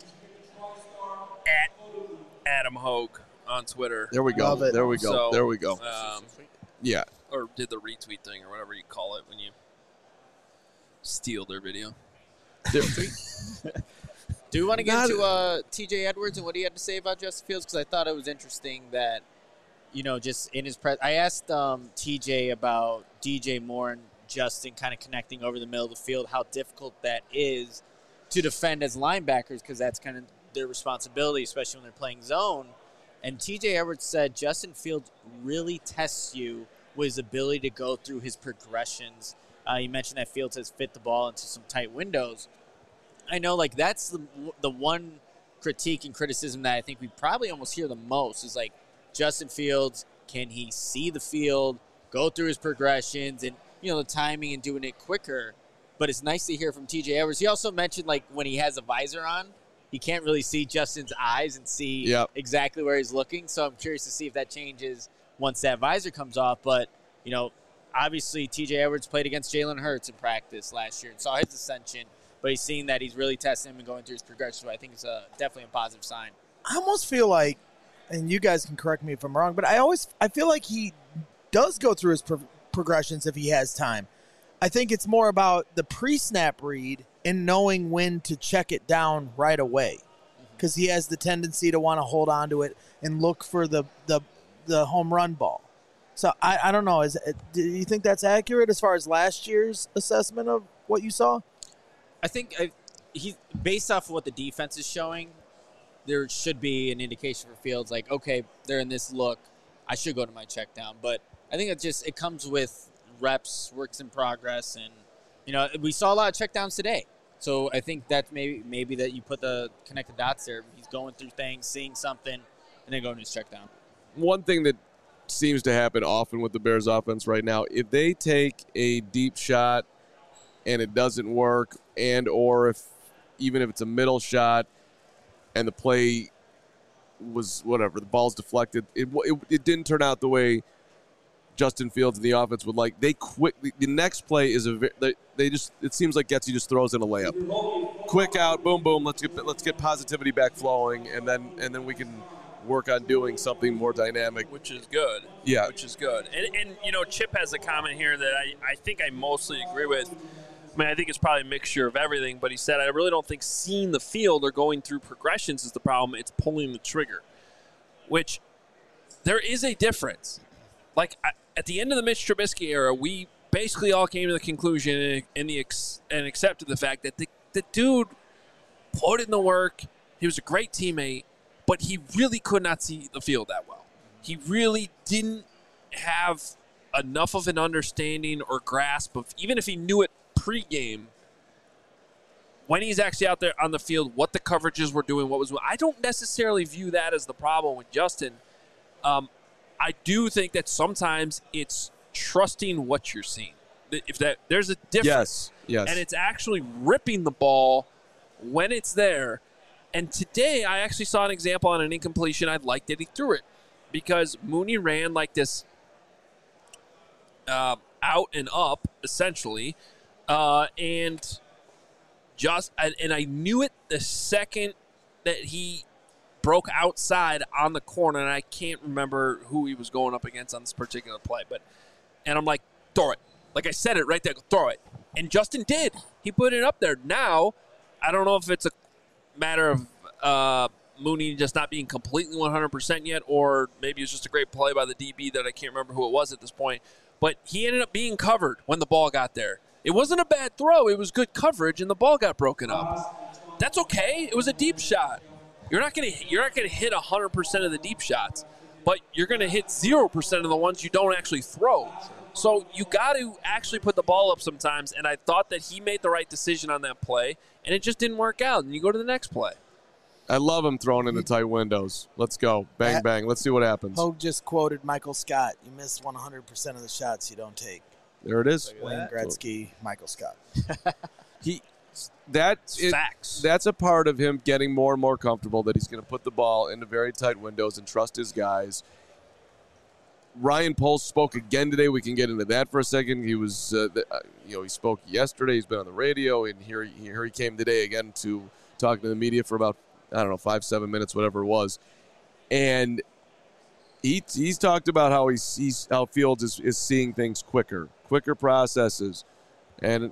[SPEAKER 3] at Adam Hogue on Twitter.
[SPEAKER 1] There we go.
[SPEAKER 4] Love it.
[SPEAKER 1] There we go.
[SPEAKER 3] So,
[SPEAKER 1] there we go. Yeah.
[SPEAKER 3] Or did the retweet thing or whatever you call it when you steal their video.
[SPEAKER 2] Do we want to get into T.J. Edwards and what he had to say about Justin Fields? Because I thought it was interesting that, just in his press, I asked T.J. about DJ Moore and Justin kind of connecting over the middle of the field, how difficult that is to defend as linebackers because that's kind of their responsibility, especially when they're playing zone. And T.J. Edwards said Justin Fields really tests you with his ability to go through his progressions. You mentioned that Fields has fit the ball into some tight windows. I know, that's the one critique and criticism that I think we probably almost hear the most is, Justin Fields, can he see the field, go through his progressions, and, the timing and doing it quicker. But it's nice to hear from T.J. Edwards. He also mentioned, when he has a visor on, he can't really see Justin's eyes and see exactly where he's looking. So I'm curious to see if that changes once that visor comes off. But, obviously TJ Edwards played against Jalen Hurts in practice last year and saw his ascension, but he's seeing that he's really testing him and going through his progression. So I think it's definitely a positive sign.
[SPEAKER 4] I almost feel like, and you guys can correct me if I'm wrong, but I feel like he does go through his progressions if he has time. I think it's more about the pre-snap read and knowing when to check it down right away, because he has the tendency to want to hold on to it and look for the home run ball. So I don't know. Do you think that's accurate as far as last year's assessment of what you saw?
[SPEAKER 2] I think he, based off of what the defense is showing, there should be an indication for Fields like, okay, they're in this look, I should go to my check down. But I think it comes with reps, works in progress, and we saw a lot of check downs today. So I think that's maybe that you put the connected dots there. He's going through things, seeing something, and then going to his check down. One
[SPEAKER 1] thing that seems to happen often with the Bears offense right now, if they take a deep shot and it doesn't work, or even if it's a middle shot and the play was whatever, the ball's deflected, it didn't turn out the way Justin Fields and the offense would like. They the next play is it seems like Getsy just throws in a layup, quick out, boom, boom. Let's get positivity back flowing, and then we can work on doing something more dynamic,
[SPEAKER 3] which is good.
[SPEAKER 1] Yeah,
[SPEAKER 3] which is good. And Chip has a comment here that I think I mostly agree with. I mean, I think it's probably a mixture of everything, but he said, I really don't think seeing the field or going through progressions is the problem. It's pulling the trigger, which there is a difference. Like, at the end of the Mitch Trubisky era, we basically all came to the conclusion and accepted the fact that the dude put in the work. He was a great teammate, but he really could not see the field that well. He really didn't have enough of an understanding or grasp of, even if he knew it pregame, when he's actually out there on the field, what the coverages were doing, I don't necessarily view that as the problem with Justin. I do think that sometimes it's trusting what you're seeing. There's a difference.
[SPEAKER 1] Yes.
[SPEAKER 3] And it's actually ripping the ball when it's there. And today I actually saw an example on an incompletion. I liked that he threw it because Mooney ran like this out and up, essentially. And I knew it the second that he broke outside on the corner, and I can't remember who he was going up against on this particular play. And I'm like, throw it. Like I said it right there, throw it. And Justin did. He put it up there. Now, I don't know if it's a matter of Mooney just not being completely 100% yet, or maybe it was just a great play by the DB that I can't remember who it was at this point. But he ended up being covered when the ball got there. It wasn't a bad throw. It was good coverage, and the ball got broken up. That's okay. It was a deep shot. You're not gonna hit 100% of the deep shots, but you're gonna hit 0% of the ones you don't actually throw. So you got to actually put the ball up sometimes. And I thought that he made the right decision on that play, and it just didn't work out. And you go to the next play.
[SPEAKER 1] I love him throwing into tight windows. Let's go, bang bang. Let's see what happens.
[SPEAKER 4] Hogue just quoted Michael Scott. You miss 100% of the shots you don't take.
[SPEAKER 1] There it is.
[SPEAKER 4] Wayne Gretzky, Michael Scott.
[SPEAKER 3] Facts.
[SPEAKER 1] That's a part of him getting more and more comfortable that he's going to put the ball into very tight windows and trust his guys. Ryan Poles spoke again today. We can get into that for a second. He was, he spoke yesterday. He's been on the radio, and here he came today again to talking to the media for about 5-7 minutes, whatever it was, and he's talked about how how Fields is seeing things quicker processes, and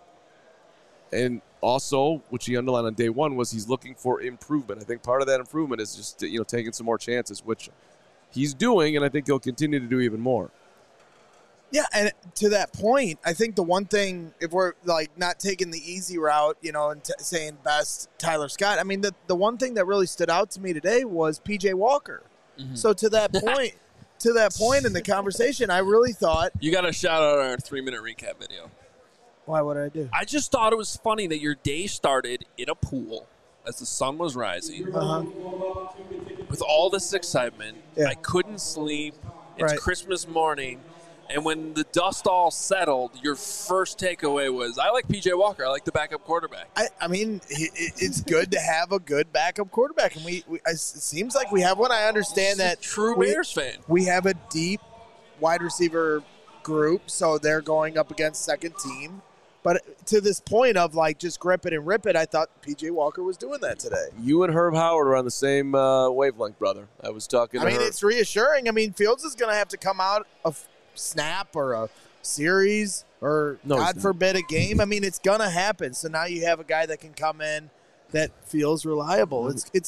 [SPEAKER 1] also, which he underlined on day one, was he's looking for improvement. I think part of that improvement is just taking some more chances, which he's doing, and I think he'll continue to do even more.
[SPEAKER 4] Yeah, and to that point, I think the one thing, if we're not taking the easy route, and saying best Tyler Scott, I mean, the one thing that really stood out to me today was PJ Walker. Mm-hmm. So to that point in the conversation, I really thought
[SPEAKER 3] you got to shout out our 3-minute recap video.
[SPEAKER 4] Why would I do?
[SPEAKER 3] I just thought it was funny that your day started in a pool as the sun was rising, with all this excitement. Yeah. I couldn't sleep. It's Christmas morning. And when the dust all settled, your first takeaway was, I like P.J. Walker. I like the backup quarterback.
[SPEAKER 4] I mean, it's good to have a good backup quarterback. And it seems like we have one. I understand that.
[SPEAKER 3] True Bears fan.
[SPEAKER 4] We have a deep wide receiver group, so they're going up against second team. But to this point of like just grip it and rip it, I thought P.J. Walker was doing that today.
[SPEAKER 1] You and Herb Howard are on the same wavelength, brother. I was talking to
[SPEAKER 4] I mean,
[SPEAKER 1] Herb.
[SPEAKER 4] it's reassuring. I mean, Fields is going to have to come out a snap or a series or, God forbid, a game. I mean, it's going to happen. So now you have a guy that can come in that feels reliable.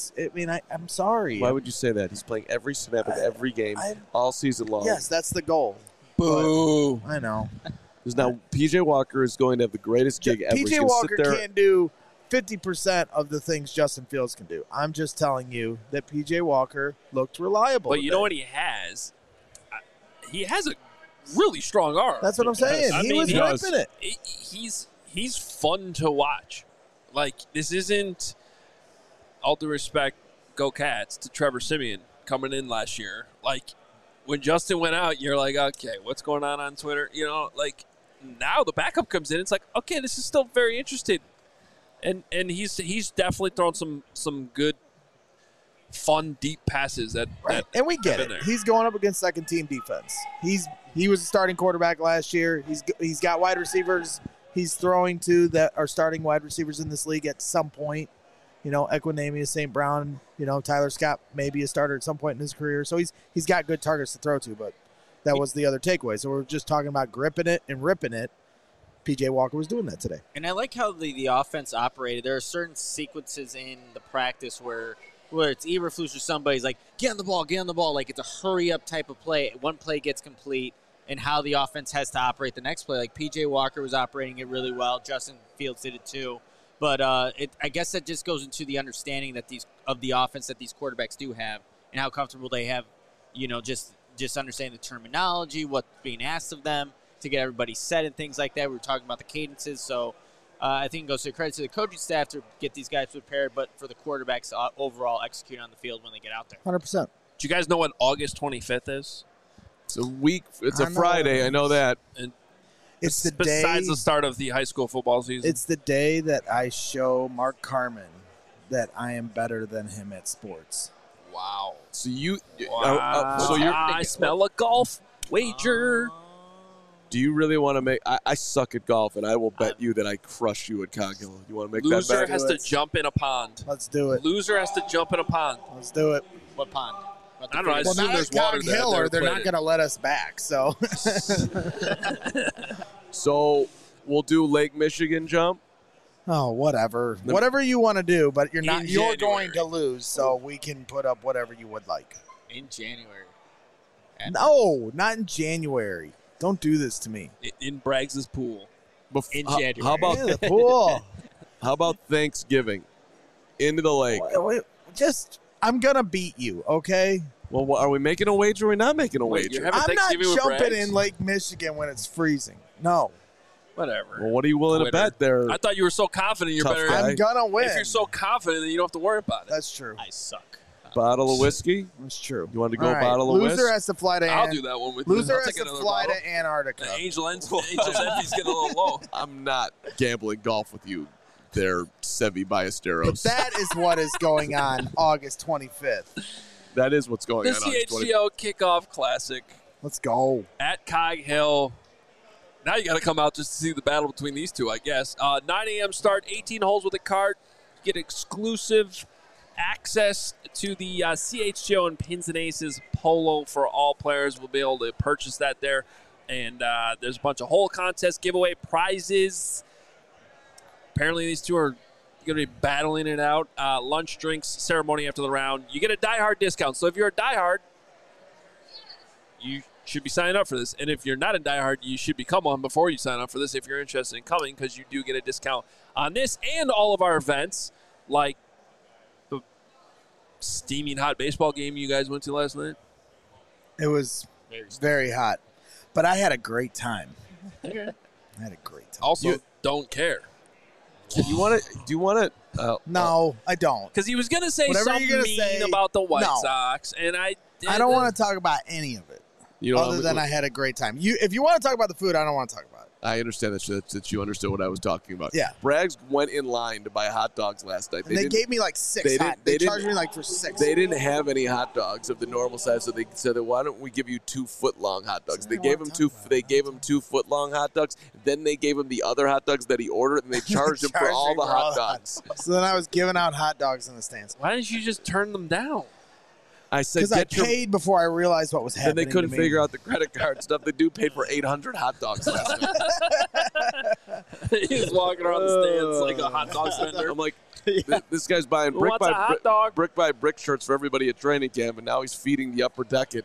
[SPEAKER 4] I'm sorry.
[SPEAKER 1] Why would you say that? He's playing every snap of every game all season long.
[SPEAKER 4] Yes, that's the goal.
[SPEAKER 1] Boo.
[SPEAKER 4] But I know.
[SPEAKER 1] Because now P.J. Walker is going to have the greatest gig ever.
[SPEAKER 4] P.J. Walker can't do 50% of the things Justin Fields can do. I'm just telling you that P.J. Walker looked reliable.
[SPEAKER 3] But you know what he has? He has a really strong arm.
[SPEAKER 4] That's what I'm saying. He was ripping it.
[SPEAKER 3] He's fun to watch. Like, this isn't, all due respect, go Cats, to Trevor Siemian coming in last year. Like, when Justin went out, you're like, okay, what's going on Twitter? You know, like, now the backup comes in. It's like, okay, this is still very interesting. And he's definitely thrown some good, fun, deep passes. And
[SPEAKER 4] we get it. There. He's going up against second-team defense. He was a starting quarterback last year. He's got wide receivers he's throwing to that are starting wide receivers in this league at some point. You know, Equanimeous, St. Brown, you know, Tyler Scott may be a starter at some point in his career. So he's got good targets to throw to, but that was the other takeaway. So we're just talking about gripping it and ripping it. P.J. Walker was doing that today.
[SPEAKER 2] And I like how the offense operated. There are certain sequences in the practice where it's Eberflus or somebody's like, get on the ball. Like, it's a hurry-up type of play. One play gets complete, and how the offense has to operate the next play. Like, P.J. Walker was operating it really well. Justin Fields did it too. But I guess that just goes into the understanding that of the offense that these quarterbacks do have and how comfortable they have, you know, just understanding the terminology, what's being asked of them to get everybody set and things like that. We were talking about the cadences. So I think it goes to credit to the coaching staff to get these guys prepared, but for the quarterbacks overall execute on the field when they get out there.
[SPEAKER 4] 100%.
[SPEAKER 3] Do you guys know what August 25th is?
[SPEAKER 1] It's a week. It's a Friday. I know that. And
[SPEAKER 4] it's the day.
[SPEAKER 3] Besides the start of the high school football season.
[SPEAKER 4] It's the day that I show Mark Carman that I am better than him at sports.
[SPEAKER 3] Wow.
[SPEAKER 1] So you.
[SPEAKER 3] Wow.
[SPEAKER 1] So you're.
[SPEAKER 3] I smell a golf wager.
[SPEAKER 1] Do you really want to make? I suck at golf, and I will bet you that I crush you at Cog Hill. You want to make that bet?
[SPEAKER 3] Loser has to jump in a pond.
[SPEAKER 4] Let's do it.
[SPEAKER 3] Loser has to jump in a pond.
[SPEAKER 4] Let's do it.
[SPEAKER 2] What pond?
[SPEAKER 3] I don't know. I
[SPEAKER 4] well,
[SPEAKER 3] assume
[SPEAKER 4] not
[SPEAKER 3] there's
[SPEAKER 4] at
[SPEAKER 3] water
[SPEAKER 4] Cog
[SPEAKER 3] there.
[SPEAKER 4] Hill, or they're not going to let us back. So.
[SPEAKER 1] So we'll do Lake Michigan jump.
[SPEAKER 4] Oh, whatever. Whatever you want to do, but you're not. You're
[SPEAKER 3] January.
[SPEAKER 4] going to lose, so we can put up whatever you would like.
[SPEAKER 2] In January.
[SPEAKER 4] No, not in January. Don't do this to me.
[SPEAKER 3] In Braggs' pool.
[SPEAKER 2] In January.
[SPEAKER 1] How about
[SPEAKER 4] the pool?
[SPEAKER 1] How about Thanksgiving? Into the lake.
[SPEAKER 4] Just, I'm gonna beat you, okay?
[SPEAKER 1] Well, are we making a wager or are we not making a wager?
[SPEAKER 4] I'm not jumping in Lake Michigan when it's freezing. No.
[SPEAKER 3] Whatever.
[SPEAKER 1] Well, what are you willing to bet there?
[SPEAKER 3] I thought you were so confident you're better.
[SPEAKER 4] I'm gonna win.
[SPEAKER 3] If you're so confident, then you don't have to worry about it.
[SPEAKER 4] That's true.
[SPEAKER 2] I suck.
[SPEAKER 1] Bottle of whiskey?
[SPEAKER 4] That's true.
[SPEAKER 1] You want to go
[SPEAKER 4] All right.
[SPEAKER 1] bottle of whiskey?
[SPEAKER 4] Loser has to fly to
[SPEAKER 3] I'll do that one with you.
[SPEAKER 4] Loser
[SPEAKER 3] I'll
[SPEAKER 4] has
[SPEAKER 3] take
[SPEAKER 4] to
[SPEAKER 3] another
[SPEAKER 4] fly
[SPEAKER 3] bottle.
[SPEAKER 4] to Antarctica.
[SPEAKER 3] Angel's envy's getting a little low.
[SPEAKER 1] I'm not gambling golf with you there, Sevi Ballesteros.
[SPEAKER 4] But that is what is going on August 25th.
[SPEAKER 1] That is what's going
[SPEAKER 3] The
[SPEAKER 1] on.
[SPEAKER 3] CHGO Kickoff Classic
[SPEAKER 4] Let's go.
[SPEAKER 3] at Cog Hill. Now you got to come out just to see the battle between these two, I guess. 9 a.m. start, 18 holes with a cart. You get exclusive access to the CHGO and Pins and Aces Polo for all players. We'll be able to purchase that there. And there's a bunch of hole contests, giveaway prizes. Apparently these two are going to be battling it out. Lunch, drinks, ceremony after the round. You get a diehard discount. So if you're a diehard, you should be signing up for this. And if you're not a diehard, you should become one before you sign up for this if you're interested in coming, because you do get a discount on this and all of our events, like the steaming hot baseball game you guys went to last night.
[SPEAKER 4] It was very hot, but I had a great time. I had a great time.
[SPEAKER 3] Also, don't care.
[SPEAKER 1] Do you want to?
[SPEAKER 4] No, I don't.
[SPEAKER 3] Because he was going to say
[SPEAKER 4] Whatever
[SPEAKER 3] something
[SPEAKER 4] you're gonna
[SPEAKER 3] mean
[SPEAKER 4] say,
[SPEAKER 3] about the White
[SPEAKER 4] no.
[SPEAKER 3] Sox, and I
[SPEAKER 4] I don't want to talk about any of it.
[SPEAKER 1] You know,
[SPEAKER 4] Other than I had a great time. If you want to talk about the food, I don't want to talk about it.
[SPEAKER 1] I understand that you understood what I was talking about.
[SPEAKER 4] Yeah.
[SPEAKER 1] Braggs went in line to buy hot dogs last night.
[SPEAKER 4] And they gave me like 6 They charged me like for 6.
[SPEAKER 1] They didn't have any hot dogs of the normal size, so they said, why don't we give you 2-foot-long hot dogs? They gave him 2 foot-long hot dogs. Then they gave him the other hot dogs that he ordered, and they charged him for all the hot dogs.
[SPEAKER 4] So then I was giving out hot dogs in the stands.
[SPEAKER 3] Why didn't you just turn them down?
[SPEAKER 1] I said,
[SPEAKER 4] because I paid before I realized what was happening.
[SPEAKER 1] And they couldn't figure out the credit card stuff. The dude paid for 800 hot dogs last night.
[SPEAKER 3] He's walking around the stands like a hot dog vendor.
[SPEAKER 1] I'm like, this guy's buying
[SPEAKER 3] brick
[SPEAKER 1] by brick shirts for everybody at training camp, and now he's feeding the upper deck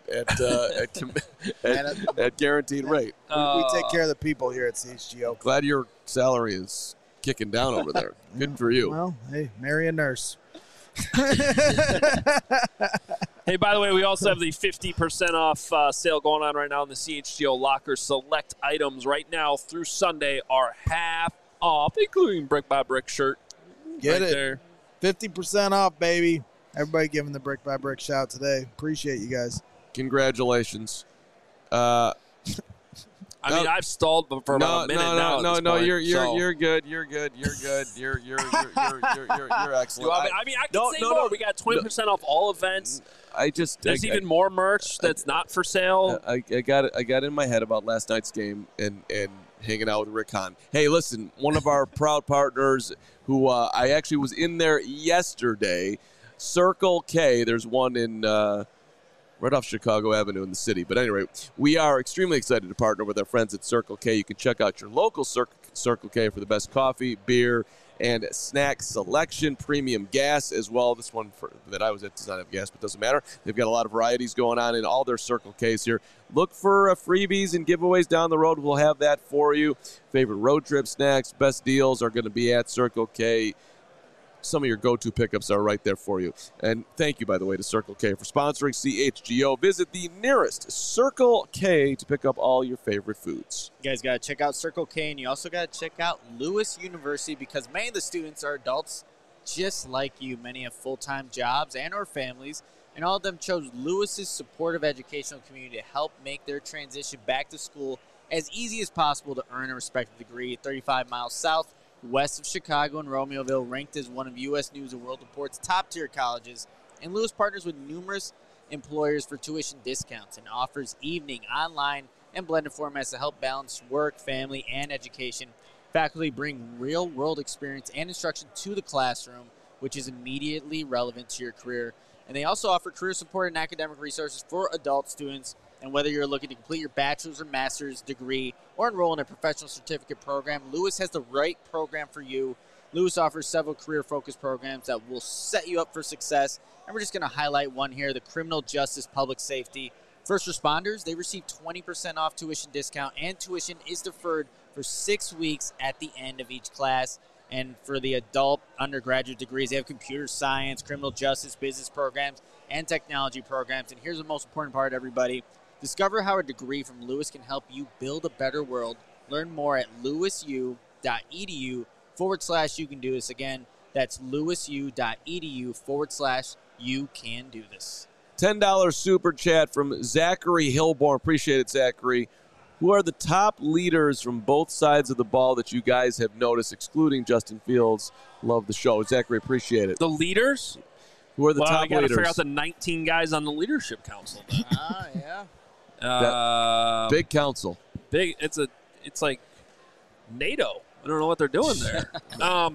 [SPEAKER 1] at guaranteed rate.
[SPEAKER 4] We take care of the people here at CHGO.
[SPEAKER 1] Glad your salary is kicking down over there. Good for you.
[SPEAKER 4] Well, hey, marry a nurse.
[SPEAKER 3] Hey, by the way, we also have the 50% off sale going on right now in the CHGO Locker. Select items right now through Sunday are half off, including Brick by Brick shirt.
[SPEAKER 4] Get
[SPEAKER 3] right
[SPEAKER 4] it.
[SPEAKER 3] there.
[SPEAKER 4] 50% off, baby. Everybody giving the Brick by Brick shout today. Appreciate you guys.
[SPEAKER 1] Congratulations.
[SPEAKER 3] I mean, I've stalled for about a minute now.
[SPEAKER 1] You're good. You're excellent.
[SPEAKER 3] I can say more. We got 20% off all events. There's even more merch that's not for sale.
[SPEAKER 1] I got in my head about last night's game and hanging out with Rick Hahn. Hey, listen, one of our proud partners who I actually was in there yesterday, Circle K. There's one in right off Chicago Avenue in the city. But anyway, we are extremely excited to partner with our friends at Circle K. You can check out your local Circle K for the best coffee, beer, and snack selection, premium gas as well. This one that I was at does not have gas, but doesn't matter. They've got a lot of varieties going on in all their Circle Ks here. Look for freebies and giveaways down the road. We'll have that for you. Favorite road trip snacks, best deals are going to be at Circle K. Some of your go-to pickups are right there for you. And thank you, by the way, to Circle K for sponsoring CHGO. Visit the nearest Circle K to pick up all your favorite foods.
[SPEAKER 2] You guys got to check out Circle K, and you also got to check out Lewis University because many of the students are adults just like you. Many have full-time jobs and or families, and all of them chose Lewis's supportive educational community to help make their transition back to school as easy as possible to earn a respective degree. 35 miles south west of Chicago and Romeoville, ranked as one of U.S. News & World Report's top-tier colleges, and Lewis partners with numerous employers for tuition discounts and offers evening, online, and blended formats to help balance work, family, and education. Faculty bring real-world experience and instruction to the classroom, which is immediately relevant to your career. And they also offer career support and academic resources for adult students. And whether you're looking to complete your bachelor's or master's degree or enroll in a professional certificate program, Lewis has the right program for you. Lewis offers several career-focused programs that will set you up for success. And we're just going to highlight one here, the criminal justice public safety. First responders, they receive 20% off tuition discount, and tuition is deferred for 6 weeks at the end of each class. And for the adult undergraduate degrees, they have computer science, criminal justice, business programs, and technology programs. And here's the most important part, everybody. Discover how a degree from Lewis can help you build a better world. Learn more at lewisu.edu/you can do this. Again, that's lewisu.edu/you can do this.
[SPEAKER 1] $10 super chat from Zachary Hilborn. Appreciate it, Zachary. Who are the top leaders from both sides of the ball that you guys have noticed, excluding Justin Fields? Love the show. Zachary, appreciate it.
[SPEAKER 3] The leaders?
[SPEAKER 1] Who are the top
[SPEAKER 3] leaders? Well, I got to figure out the 19 guys on the leadership council.
[SPEAKER 2] Yeah.
[SPEAKER 1] Big council.
[SPEAKER 3] Big. It's like NATO. I don't know what they're doing there.
[SPEAKER 2] Well,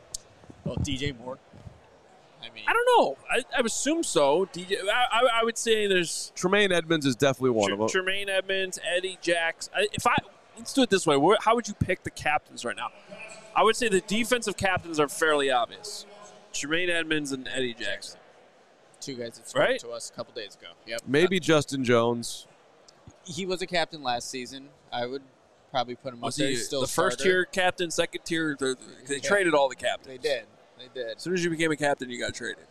[SPEAKER 2] DJ Moore.
[SPEAKER 3] I don't know. I would assume so. DJ. I would say there's
[SPEAKER 1] Tremaine Edmonds is definitely one of them.
[SPEAKER 3] Tremaine Edmonds, Eddie Jacks. Let's do it this way. How would you pick the captains right now? I would say the defensive captains are fairly obvious. Tremaine Edmonds and Eddie Jackson.
[SPEAKER 2] Two guys that spoke to us a couple days ago. Yep.
[SPEAKER 1] Maybe Justin Jones.
[SPEAKER 2] He was a captain last season. I would probably put him up there. He's still
[SPEAKER 3] the first tier captain, second tier. They traded all the captains.
[SPEAKER 2] They did.
[SPEAKER 3] As soon as you became a captain, you got traded.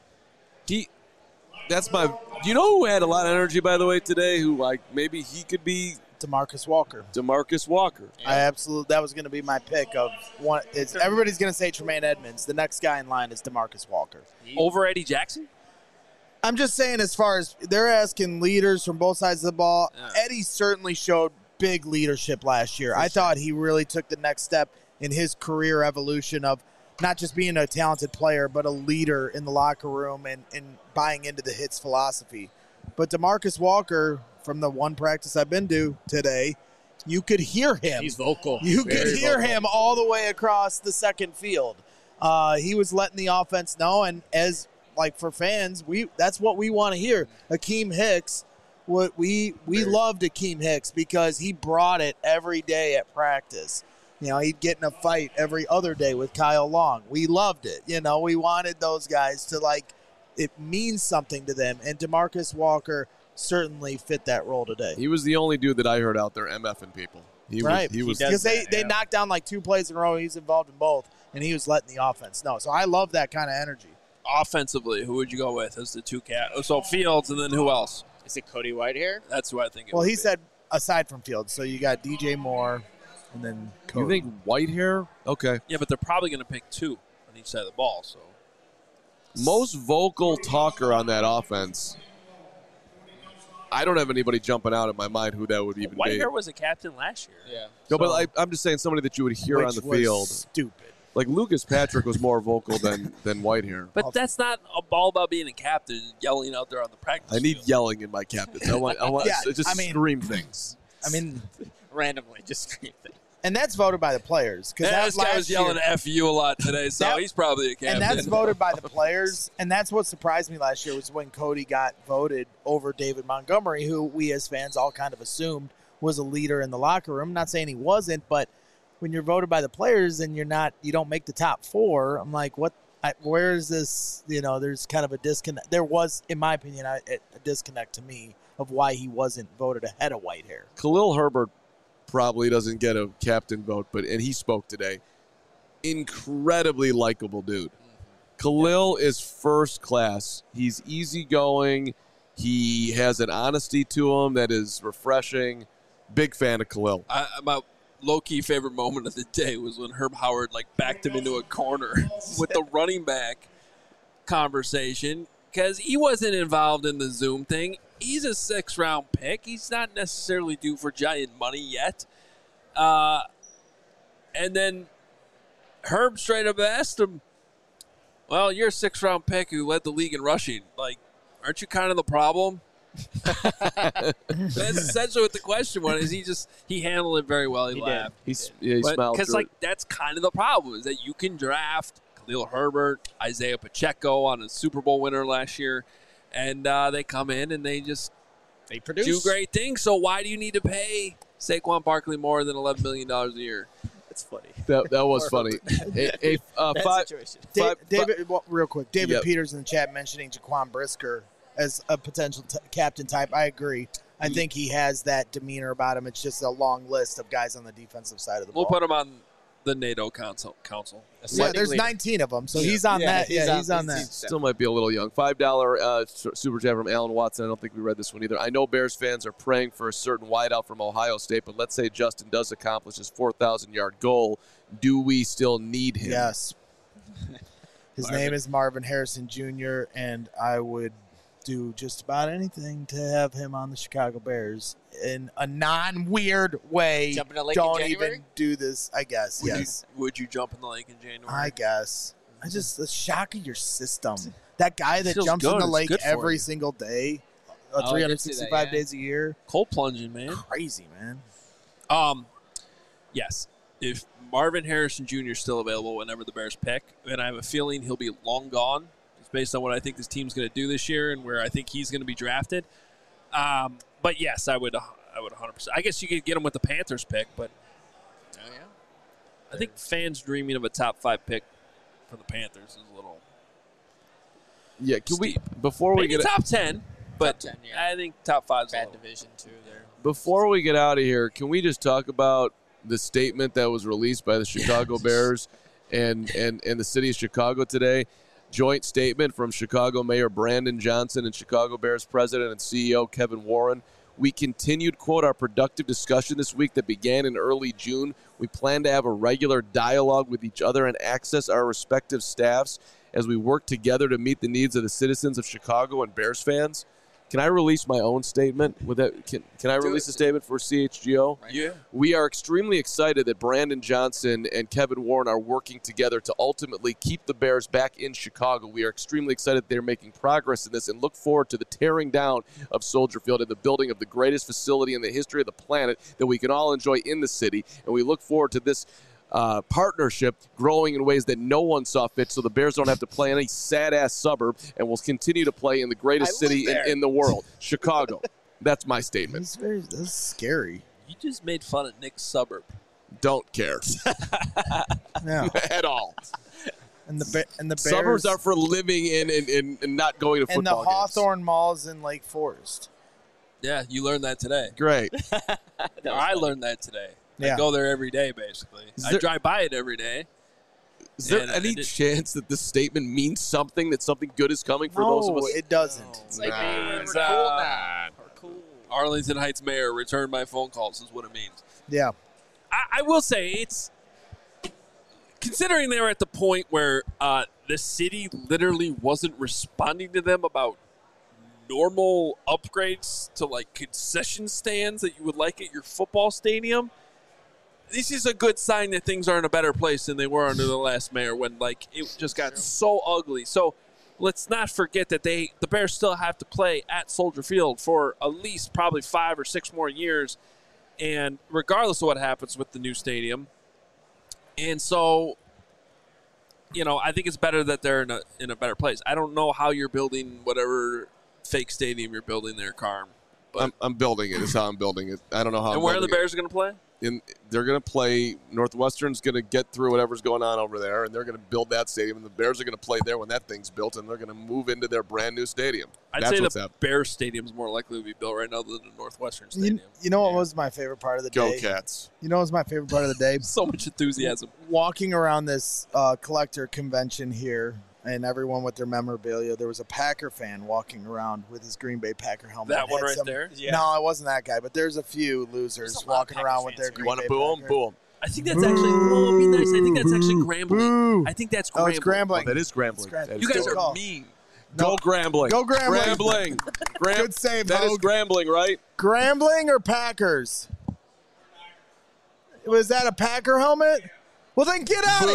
[SPEAKER 1] That's my. Do you know who had a lot of energy, by the way, today? Who maybe he could be
[SPEAKER 4] DeMarcus Walker.
[SPEAKER 2] Yeah.
[SPEAKER 4] That was going to be my pick of one. Everybody's going to say Tremaine Edmonds. The next guy in line is DeMarcus Walker.
[SPEAKER 3] Over Eddie Jackson?
[SPEAKER 4] I'm just saying, as far as they're asking leaders from both sides of the ball, Eddie certainly showed big leadership last year. I thought he really took the next step in his career evolution of not just being a talented player, but a leader in the locker room and buying into the Hits philosophy. But DeMarcus Walker, from the one practice I've been to today, you could hear him.
[SPEAKER 2] He's vocal.
[SPEAKER 4] You could hear him all the way across the second field. He was letting the offense know, and as like for fans, that's what we want to hear. Akeem Hicks, we loved Akeem Hicks because he brought it every day at practice. You know, he'd get in a fight every other day with Kyle Long. We loved it. You know, we wanted those guys to, like, it means something to them. And DeMarcus Walker certainly fit that role today.
[SPEAKER 1] He was the only dude that I heard out there MFing people. He was
[SPEAKER 4] because they knocked down like 2 plays in a row. He's involved in both, and he was letting the offense know. So I love that kind of energy.
[SPEAKER 3] Offensively, who would you go with as the two So Fields, and then who else?
[SPEAKER 2] Is it Cody Whitehair?
[SPEAKER 3] That's who I think it
[SPEAKER 4] Well,
[SPEAKER 3] would
[SPEAKER 4] he
[SPEAKER 3] be.
[SPEAKER 4] said aside from Fields. So you got DJ Moore and then Cody.
[SPEAKER 1] You think Whitehair? Okay.
[SPEAKER 3] Yeah, but they're probably going to pick 2 on each side of the ball. So
[SPEAKER 1] Most vocal talker on that offense. I don't have anybody jumping out in my mind who that would even be.
[SPEAKER 3] Whitehair was a captain last year.
[SPEAKER 2] Yeah.
[SPEAKER 1] No, but I'm just saying somebody that you would hear on the
[SPEAKER 4] was
[SPEAKER 1] field.
[SPEAKER 4] Stupid.
[SPEAKER 1] Like Lucas Patrick was more vocal than Whitehair.
[SPEAKER 3] But that's not all about being a captain, yelling out there on the practice
[SPEAKER 1] I need
[SPEAKER 3] field.
[SPEAKER 1] yelling in my captains. I want
[SPEAKER 4] Yeah,
[SPEAKER 1] to just
[SPEAKER 4] I mean-
[SPEAKER 1] scream things.
[SPEAKER 4] I mean,
[SPEAKER 2] Randomly, just scream things.
[SPEAKER 4] and that's voted by the players.
[SPEAKER 3] Yeah, this guy was yelling F you a lot today, so
[SPEAKER 4] That-
[SPEAKER 3] he's probably a captain.
[SPEAKER 4] And that's voted by the players. And that's what surprised me last year was when Cody got voted over David Montgomery, who we as fans all kind of assumed was a leader in the locker room. I'm not saying he wasn't, but when you're voted by the players and you don't make the top 4, I'm like, where is this? You know, there's kind of a disconnect. There was, in my opinion, a disconnect to me of why he wasn't voted ahead of Whitehair.
[SPEAKER 1] Khalil Herbert probably doesn't get a captain vote, and he spoke today. Incredibly likable dude. Khalil is first class. He's easygoing. He has an honesty to him that is refreshing. Big fan of Khalil.
[SPEAKER 3] My low-key favorite moment of the day was when Herb Howard backed him into a corner with the running back conversation because he wasn't involved in the Zoom thing. He's a 6th-round pick. He's not necessarily due for giant money yet. And then Herb straight up asked him, well, you're a 6th-round pick who led the league in rushing. Aren't you kind of the problem? That's essentially what the question was. He handled it very well. He laughed.
[SPEAKER 1] He smiled
[SPEAKER 3] Because
[SPEAKER 1] through it.
[SPEAKER 3] that's kind of the problem is that you can draft Khalil Herbert, Isaiah Pacheco on a Super Bowl winner last year, and they come in and they
[SPEAKER 2] produce.
[SPEAKER 3] do great things. So why do you need to pay Saquon Barkley more than $11 million a year?
[SPEAKER 2] That's funny.
[SPEAKER 1] That was funny.
[SPEAKER 2] Bad situation.
[SPEAKER 4] David, real quick, David
[SPEAKER 1] Yep.
[SPEAKER 4] Peters in the chat mentioning Jaquan Brisker as a potential captain type. I agree. I think he has that demeanor about him. It's just a long list of guys on the defensive side of the
[SPEAKER 3] We'll
[SPEAKER 4] ball.
[SPEAKER 3] put him on the NATO council.
[SPEAKER 4] Yeah, there's 19 of them, so he's on that. He's on that.
[SPEAKER 1] Still might be a little young. $5 super chat from Alan Watson. I don't think we read this one either. I know Bears fans are praying for a certain wideout from Ohio State, but let's say Justin does accomplish his 4,000-yard goal. Do we still need him?
[SPEAKER 4] Yes. His name is Marvin Harrison Jr., and I would do just about anything to have him on the Chicago Bears in a non-weird way.
[SPEAKER 2] Jump in a lake in
[SPEAKER 4] Don't
[SPEAKER 2] January?
[SPEAKER 4] even do this, I guess. Yes.
[SPEAKER 3] Would you jump in the lake in January?
[SPEAKER 4] I guess. The shock of your system. That guy that
[SPEAKER 3] Feels
[SPEAKER 4] jumps in
[SPEAKER 3] good.
[SPEAKER 4] the
[SPEAKER 3] It's
[SPEAKER 4] lake
[SPEAKER 3] good for
[SPEAKER 4] every
[SPEAKER 3] you.
[SPEAKER 4] single day,
[SPEAKER 2] I can see that,
[SPEAKER 4] 365
[SPEAKER 2] yeah.
[SPEAKER 4] days a year.
[SPEAKER 3] Cold plunging, man.
[SPEAKER 4] Crazy, man.
[SPEAKER 3] Yes. If Marvin Harrison Jr. is still available whenever the Bears pick, and I have a feeling he'll be long gone, just based on what I think this team's going to do this year and where I think he's going to be drafted. But yes, I would 100%. I guess you could get him with the Panthers pick, but
[SPEAKER 2] Oh, yeah.
[SPEAKER 3] I think fans dreaming of a top 5 pick for the Panthers is a little
[SPEAKER 1] Yeah, can we
[SPEAKER 3] steep.
[SPEAKER 1] before we
[SPEAKER 3] Maybe
[SPEAKER 1] get
[SPEAKER 3] top 10, but
[SPEAKER 2] Top 10, yeah.
[SPEAKER 3] I think top 5 is a
[SPEAKER 2] Bad
[SPEAKER 3] little.
[SPEAKER 2] division, too, there.
[SPEAKER 1] before we get out of here, can we just talk about the statement that was released by the Chicago Bears and the city of Chicago today? Joint statement from Chicago Mayor Brandon Johnson and Chicago Bears President and CEO Kevin Warren. We continued, quote, our productive discussion this week that began in early June. We plan to have a regular dialogue with each other and access our respective staffs as we work together to meet the needs of the citizens of Chicago and Bears fans. Can I release my own statement? With that, can I release a statement for CHGO?
[SPEAKER 3] Yeah.
[SPEAKER 1] We are extremely excited that Brandon Johnson and Kevin Warren are working together to ultimately keep the Bears back in Chicago. We are extremely excited they're making progress in this and look forward to the tearing down of Soldier Field and the building of the greatest facility in the history of the planet that we can all enjoy in the city. And we look forward to this partnership growing in ways that no one saw fit, so the Bears don't have to play in any sad-ass suburb and will continue to play in the greatest city in the world, Chicago. That's my statement.
[SPEAKER 4] That's scary.
[SPEAKER 3] You just made fun of Nick's suburb.
[SPEAKER 1] Don't care
[SPEAKER 4] Yeah.
[SPEAKER 1] at all.
[SPEAKER 4] And the Bears,
[SPEAKER 1] Suburbs are for living in and not going to
[SPEAKER 4] and the
[SPEAKER 1] football games.
[SPEAKER 4] Hawthorne Mall's in Lake Forest.
[SPEAKER 3] Yeah, you learned that today.
[SPEAKER 1] Great.
[SPEAKER 3] I learned that today.
[SPEAKER 4] Yeah.
[SPEAKER 3] I go there every day, basically. I drive by it every day.
[SPEAKER 1] Is there
[SPEAKER 3] And
[SPEAKER 1] any chance that this statement means something, that something good is coming for
[SPEAKER 4] No,
[SPEAKER 1] those of us?
[SPEAKER 4] it doesn't.
[SPEAKER 2] It's like, man,
[SPEAKER 3] It's,
[SPEAKER 2] we're cool now. We're cool.
[SPEAKER 3] Arlington Heights mayor returned my phone calls is what it means.
[SPEAKER 4] Yeah.
[SPEAKER 3] I will say it's considering they were at the point where the city literally wasn't responding to them about normal upgrades to like concession stands that you would like at your football stadium. This is a good sign that things are in a better place than they were under the last mayor when like it just got so ugly. So let's not forget that the Bears still have to play at Soldier Field for at least probably 5 or 6 more years. And regardless of what happens with the new stadium. And so, I think it's better that they're in a better place. I don't know how you're building whatever fake stadium you're building there, Carm. But
[SPEAKER 1] I'm building it. Is how I'm building it. I don't know how.
[SPEAKER 3] and where are the Bears going to play?
[SPEAKER 1] They're going to play. Northwestern's going to get through whatever's going on over there, and they're going to build that stadium. And the Bears are going to play there when that thing's built, and they're going to move into their brand new stadium.
[SPEAKER 3] I'd
[SPEAKER 1] That's
[SPEAKER 3] say
[SPEAKER 1] what's
[SPEAKER 3] the
[SPEAKER 1] happening.
[SPEAKER 3] Bears stadium's more likely to be built right now than the Northwestern stadium.
[SPEAKER 4] You know what was my favorite part of the
[SPEAKER 1] Go
[SPEAKER 4] day?
[SPEAKER 1] Cats.
[SPEAKER 4] You know what was my favorite part of the day?
[SPEAKER 3] So much enthusiasm.
[SPEAKER 4] Walking around this collector convention here, and everyone with their memorabilia, there was a Packer fan walking around with his Green Bay Packer helmet.
[SPEAKER 3] That one
[SPEAKER 4] Had
[SPEAKER 3] right there?
[SPEAKER 2] Yeah.
[SPEAKER 4] No, it wasn't that guy, but there's a few losers
[SPEAKER 2] There's a lot of
[SPEAKER 4] walking
[SPEAKER 2] Packers
[SPEAKER 4] around with
[SPEAKER 2] fans
[SPEAKER 4] their
[SPEAKER 2] here.
[SPEAKER 4] Green
[SPEAKER 1] You want
[SPEAKER 4] Bay
[SPEAKER 1] to boo them?
[SPEAKER 4] Packer.
[SPEAKER 1] Boo them.
[SPEAKER 3] I think that's actually, it'd be nice. I think that's actually Grambling.
[SPEAKER 4] Boo.
[SPEAKER 3] I think that's
[SPEAKER 4] Oh,
[SPEAKER 3] Grambling.
[SPEAKER 4] it's Grambling.
[SPEAKER 1] That is Grambling.
[SPEAKER 4] It's Grambling.
[SPEAKER 1] That is
[SPEAKER 3] You guys
[SPEAKER 4] Good
[SPEAKER 3] are
[SPEAKER 4] call.
[SPEAKER 3] mean.
[SPEAKER 1] Go Grambling.
[SPEAKER 4] Go Grambling.
[SPEAKER 1] Grambling.
[SPEAKER 4] Good save,
[SPEAKER 1] That is
[SPEAKER 4] Hogue.
[SPEAKER 1] Grambling, right?
[SPEAKER 4] Grambling or Packers? Was that a Packer helmet? Well, then get out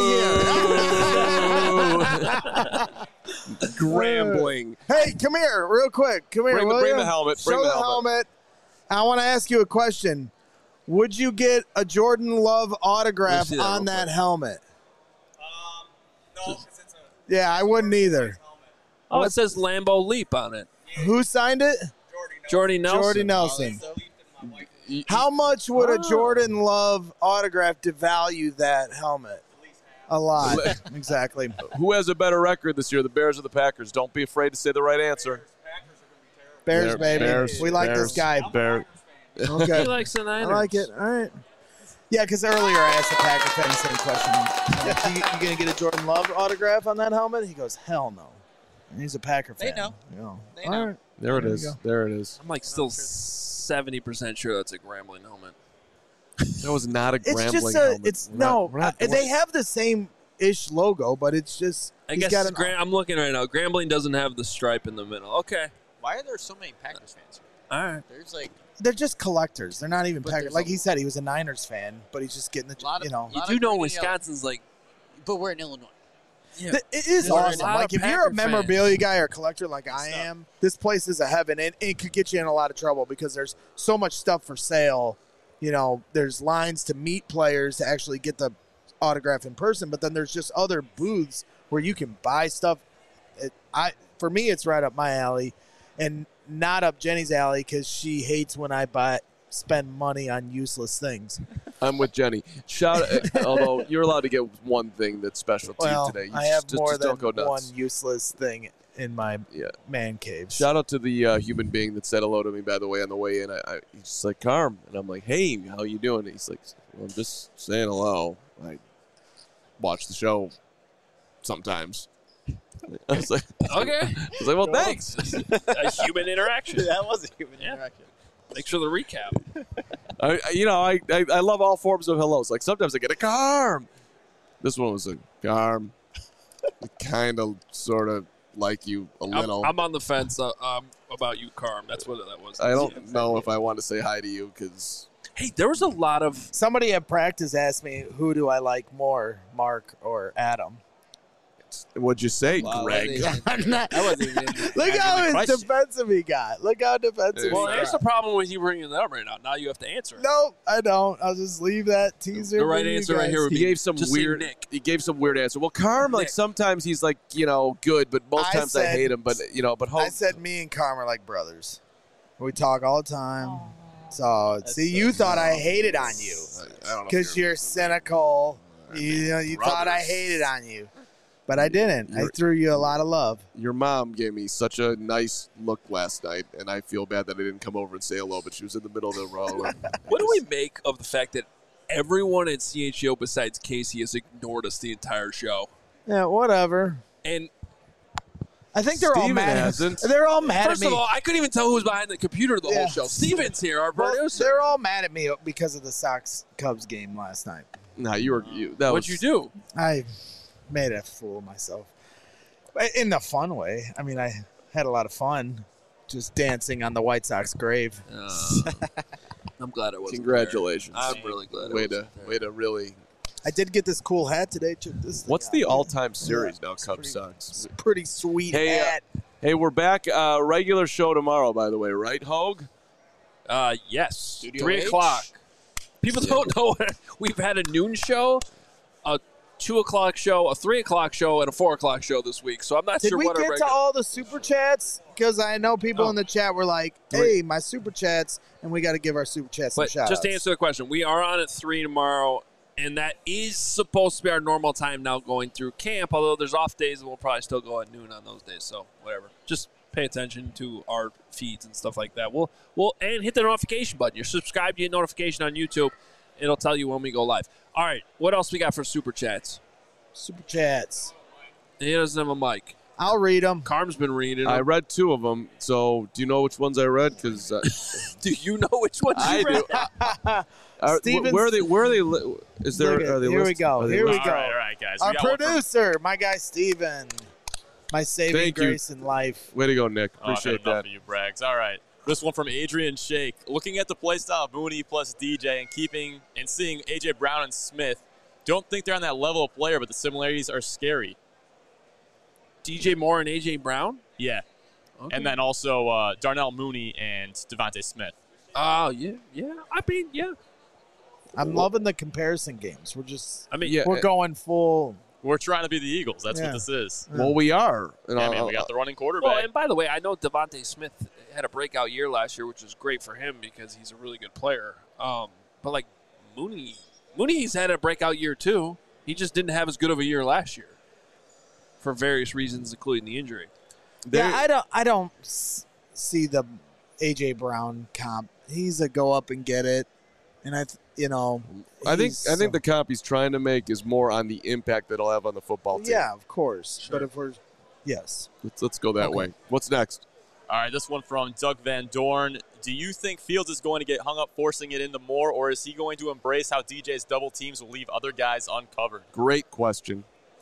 [SPEAKER 4] of here.
[SPEAKER 1] Grambling.
[SPEAKER 4] Hey, come here, real quick. Come here,
[SPEAKER 1] Bring
[SPEAKER 4] will
[SPEAKER 1] the
[SPEAKER 4] ya?
[SPEAKER 1] helmet.
[SPEAKER 4] Show
[SPEAKER 1] Bring the
[SPEAKER 4] the
[SPEAKER 1] helmet.
[SPEAKER 4] helmet. I want to ask you a question. Would you get a Jordan Love autograph
[SPEAKER 3] Let's see that
[SPEAKER 4] on
[SPEAKER 3] real
[SPEAKER 4] that
[SPEAKER 3] quick.
[SPEAKER 4] helmet?
[SPEAKER 5] No, because it's a
[SPEAKER 4] Yeah, I wouldn't either.
[SPEAKER 3] Oh, it says Lambeau Leap on it.
[SPEAKER 4] Who signed it?
[SPEAKER 3] Jordy Nelson.
[SPEAKER 4] Jordy Nelson.
[SPEAKER 5] Leap in my wife.
[SPEAKER 4] How much would a
[SPEAKER 3] Oh.
[SPEAKER 4] Jordan Love autograph devalue that helmet? A lot. Exactly.
[SPEAKER 1] Who has a better record this year, the Bears or the Packers? Don't be afraid to say the right answer.
[SPEAKER 5] Packers are going to be terrible.
[SPEAKER 4] Bears, baby.
[SPEAKER 1] Bears,
[SPEAKER 4] we like
[SPEAKER 1] Bears,
[SPEAKER 4] this guy.
[SPEAKER 1] Bear.
[SPEAKER 4] Okay.
[SPEAKER 3] He likes the
[SPEAKER 4] I
[SPEAKER 3] Niners.
[SPEAKER 4] like it. All right. Yeah, because earlier I asked the Packer fan the same question. Like, you going to get a Jordan Love autograph on that helmet? He goes, hell no. And he's a Packer fan.
[SPEAKER 2] They know.
[SPEAKER 4] Yeah.
[SPEAKER 2] They
[SPEAKER 4] All
[SPEAKER 2] know.
[SPEAKER 4] right.
[SPEAKER 1] There it
[SPEAKER 4] There you
[SPEAKER 1] is.
[SPEAKER 4] go.
[SPEAKER 1] There it is.
[SPEAKER 3] I'm like still 70% sure that's a Grambling helmet.
[SPEAKER 1] That was not a
[SPEAKER 4] It's
[SPEAKER 1] Grambling
[SPEAKER 4] just a,
[SPEAKER 1] helmet.
[SPEAKER 4] it's,
[SPEAKER 1] We're
[SPEAKER 4] no,
[SPEAKER 1] not- we're not-
[SPEAKER 4] they have the same-ish logo, but it's just,
[SPEAKER 3] I
[SPEAKER 4] he's
[SPEAKER 3] guess
[SPEAKER 4] got an,
[SPEAKER 3] I'm looking right now. Grambling doesn't have the stripe in the middle. Okay.
[SPEAKER 2] Why are there so many Packers fans here?
[SPEAKER 3] All right.
[SPEAKER 2] There's like
[SPEAKER 4] they're just collectors. They're not even
[SPEAKER 2] But
[SPEAKER 4] Packers.
[SPEAKER 2] there's
[SPEAKER 4] Like
[SPEAKER 2] a-
[SPEAKER 4] he said, he was a Niners fan, but he's just getting the,
[SPEAKER 2] Lot of-
[SPEAKER 4] you know.
[SPEAKER 3] You
[SPEAKER 2] lot
[SPEAKER 3] do
[SPEAKER 2] of
[SPEAKER 3] know
[SPEAKER 2] green and
[SPEAKER 3] Wisconsin's like,
[SPEAKER 2] but we're in Illinois.
[SPEAKER 3] yeah.
[SPEAKER 4] It is
[SPEAKER 3] There's a
[SPEAKER 4] awesome.
[SPEAKER 3] lot
[SPEAKER 4] Like
[SPEAKER 3] of
[SPEAKER 4] if you're
[SPEAKER 3] Packer
[SPEAKER 4] a memorabilia
[SPEAKER 3] fans.
[SPEAKER 4] guy or collector like I
[SPEAKER 2] Stuff.
[SPEAKER 4] am, this place is a heaven, and it could get you in a lot of trouble because there's so much stuff for sale. You know, there's lines to meet players to actually get the autograph in person, but then there's just other booths where you can buy stuff. For me, it's right up my alley, and not up Jenny's alley because she hates when I spend money on useless things.
[SPEAKER 1] I'm with Jenny. Although you're allowed to get one thing that's special to
[SPEAKER 4] Well,
[SPEAKER 1] you today. You
[SPEAKER 4] I have
[SPEAKER 1] just
[SPEAKER 4] more than
[SPEAKER 1] don't go nuts.
[SPEAKER 4] one useless thing in my
[SPEAKER 1] Yeah.
[SPEAKER 4] man cave.
[SPEAKER 1] Shout out to the human being that said hello to me, by the way, on the way in. He's just like, Carm. And I'm like, hey, how you doing? And he's like, well, I'm just saying hello. I watch the show sometimes. I was like,
[SPEAKER 3] okay.
[SPEAKER 1] well, thanks.
[SPEAKER 3] A human interaction.
[SPEAKER 2] That was a human
[SPEAKER 3] Yeah.
[SPEAKER 2] interaction.
[SPEAKER 3] Thanks for the recap.
[SPEAKER 1] I love all forms of hellos. Like sometimes I get a Carm. This one was a Carm. Kind of, sort of, like you a little.
[SPEAKER 3] I'm on the fence about you, Carm. That's what that was.
[SPEAKER 1] I don't know if I want to say hi to you because
[SPEAKER 3] Hey, there was a lot of.
[SPEAKER 4] Somebody at practice asked me, who do I like more, Mark or Adam?
[SPEAKER 1] what'd you say,
[SPEAKER 2] Wow,
[SPEAKER 1] Greg?
[SPEAKER 4] I'm not,
[SPEAKER 2] That wasn't even.
[SPEAKER 4] look how defensive he got. Look how defensive
[SPEAKER 3] Well,
[SPEAKER 4] he
[SPEAKER 3] here's
[SPEAKER 4] got.
[SPEAKER 3] the problem with you bringing it up right now. Now you have to answer it.
[SPEAKER 4] No, I don't. I'll just leave that teaser.
[SPEAKER 3] The right
[SPEAKER 4] for you
[SPEAKER 3] answer right
[SPEAKER 4] guys.
[SPEAKER 3] here would
[SPEAKER 1] He
[SPEAKER 3] be
[SPEAKER 1] gave some
[SPEAKER 3] just say
[SPEAKER 1] weird.
[SPEAKER 3] Nick.
[SPEAKER 1] He gave some weird answer. Well, Carm, like
[SPEAKER 3] Nick.
[SPEAKER 1] sometimes he's like good, but most
[SPEAKER 4] I
[SPEAKER 1] times I
[SPEAKER 4] said-
[SPEAKER 1] hate him. But but
[SPEAKER 4] I said me and Carm are like brothers. We talk all the time. So, see, you thought I hated on you
[SPEAKER 1] I don't know
[SPEAKER 4] because you're cynical. You thought I hated on you. But I didn't. I threw you a lot of love.
[SPEAKER 1] Your mom gave me such a nice look last night, and I feel bad that I didn't come over and say hello. But she was in the middle of the row. and
[SPEAKER 3] What do we make of the fact that everyone at CHO besides Casey has ignored us the entire show?
[SPEAKER 4] Yeah, whatever.
[SPEAKER 3] And
[SPEAKER 4] I think they're all
[SPEAKER 1] Steven
[SPEAKER 4] mad.
[SPEAKER 1] hasn't.
[SPEAKER 4] They're all mad
[SPEAKER 3] first
[SPEAKER 4] at me.
[SPEAKER 3] of all, I couldn't even tell who was behind the computer the
[SPEAKER 4] Yeah.
[SPEAKER 3] whole show. Steven's here, our
[SPEAKER 4] Well,
[SPEAKER 3] producer.
[SPEAKER 4] they're all mad at me because of the Sox Cubs game last night.
[SPEAKER 1] Nah, that
[SPEAKER 3] What'd you do?
[SPEAKER 4] I made a fool of myself. In the fun way. I mean, I had a lot of fun just dancing on the White Sox grave.
[SPEAKER 3] I'm glad it wasn't
[SPEAKER 1] Congratulations.
[SPEAKER 3] there. I'm really glad
[SPEAKER 1] Way
[SPEAKER 3] it wasn't there.
[SPEAKER 1] to really.
[SPEAKER 4] I did get this cool hat today. Check this thing
[SPEAKER 1] What's
[SPEAKER 4] out.
[SPEAKER 1] the all-time series now?
[SPEAKER 4] It's
[SPEAKER 1] Cubs
[SPEAKER 4] pretty-
[SPEAKER 1] Sox.
[SPEAKER 4] It's a pretty sweet
[SPEAKER 1] Hey,
[SPEAKER 4] hat.
[SPEAKER 1] Hey, we're back. Regular show tomorrow, by the way, right, Hogue?
[SPEAKER 3] Yes.
[SPEAKER 2] Studio
[SPEAKER 3] 3
[SPEAKER 2] H?
[SPEAKER 3] o'clock. People don't know. We've had a noon show, a 2 o'clock show, a 3 o'clock show, and a 4 o'clock show this week. So I'm not
[SPEAKER 4] Did
[SPEAKER 3] sure
[SPEAKER 4] we
[SPEAKER 3] what our
[SPEAKER 4] get to
[SPEAKER 3] regular.
[SPEAKER 4] all the super chats? Because I know people
[SPEAKER 3] Oh.
[SPEAKER 4] in the chat were like, "Hey, my super chats," and we got to give our super chats some
[SPEAKER 3] But
[SPEAKER 4] shout
[SPEAKER 3] just to answer the question, we are on at 3 tomorrow, and that is supposed to be our normal time now going through camp, although there's off days, and we'll probably still go at noon on those days. So whatever. Just pay attention to our feeds and stuff like that. We'll and hit the notification button. You're subscribed, you get notification on YouTube. It'll tell you when we go live. All right, what else we got for super chats?
[SPEAKER 4] Super chats.
[SPEAKER 3] He doesn't have a mic.
[SPEAKER 4] I'll read them.
[SPEAKER 3] Carm's been reading
[SPEAKER 1] I
[SPEAKER 3] them.
[SPEAKER 1] read 2 of them. So, do you know which ones I read? Because
[SPEAKER 3] Do you know which ones
[SPEAKER 1] I
[SPEAKER 3] you read?
[SPEAKER 1] do.
[SPEAKER 4] Steven's-
[SPEAKER 1] Where are they? Where are they? Is there?
[SPEAKER 4] Look at-
[SPEAKER 1] Are they
[SPEAKER 4] here we
[SPEAKER 1] listed?
[SPEAKER 4] go.
[SPEAKER 1] Are they
[SPEAKER 4] Here we
[SPEAKER 1] listed?
[SPEAKER 4] go.
[SPEAKER 5] All right, guys.
[SPEAKER 4] Our
[SPEAKER 5] We got one from-
[SPEAKER 4] producer, my guy Steven. My saving
[SPEAKER 1] Thank you.
[SPEAKER 4] grace in life.
[SPEAKER 1] Way to go, Nick.
[SPEAKER 5] Oh, I've had
[SPEAKER 1] Appreciate
[SPEAKER 5] enough
[SPEAKER 1] that.
[SPEAKER 5] of you, Braggs. All right. This one from Adrian Shake. Looking at the playstyle of Mooney plus DJ and keeping and seeing A.J. Brown and Smith, don't think they're on that level of player, but the similarities are scary.
[SPEAKER 3] DJ Moore and AJ Brown?
[SPEAKER 5] Yeah.
[SPEAKER 3] Okay.
[SPEAKER 5] And then also Darnell Mooney and Devontae Smith.
[SPEAKER 3] Oh, yeah. I mean, yeah.
[SPEAKER 4] I'm loving the comparison games.
[SPEAKER 3] I mean,
[SPEAKER 1] Yeah.
[SPEAKER 4] We're going full.
[SPEAKER 5] We're trying to be the Eagles. That's
[SPEAKER 4] Yeah.
[SPEAKER 5] what this is.
[SPEAKER 1] Well, we are. And
[SPEAKER 5] Yeah,
[SPEAKER 1] I'll-
[SPEAKER 5] man, we got the running
[SPEAKER 3] Well,
[SPEAKER 5] quarterback.
[SPEAKER 3] and by the way, I know Devontae Smith had a breakout year last year, which was great for him because he's a really good player. But like Mooney's had a breakout year too. He just didn't have as good of a year last year for various reasons, including the injury.
[SPEAKER 4] Yeah, I don't see the AJ Brown comp. He's a go up and get it, and
[SPEAKER 1] I think
[SPEAKER 4] he's
[SPEAKER 1] the comp he's trying to make is more on the impact that it'll have on the football team.
[SPEAKER 4] yeah, of course.
[SPEAKER 3] Sure.
[SPEAKER 4] But if we're yes,
[SPEAKER 1] Let's go that
[SPEAKER 4] Okay.
[SPEAKER 1] way. What's next?
[SPEAKER 5] All right, this one from Doug Van Dorn. Do you think Fields is going to get hung up forcing it into more, or is he going to embrace how DJ's double teams will leave other guys uncovered?
[SPEAKER 1] Great question.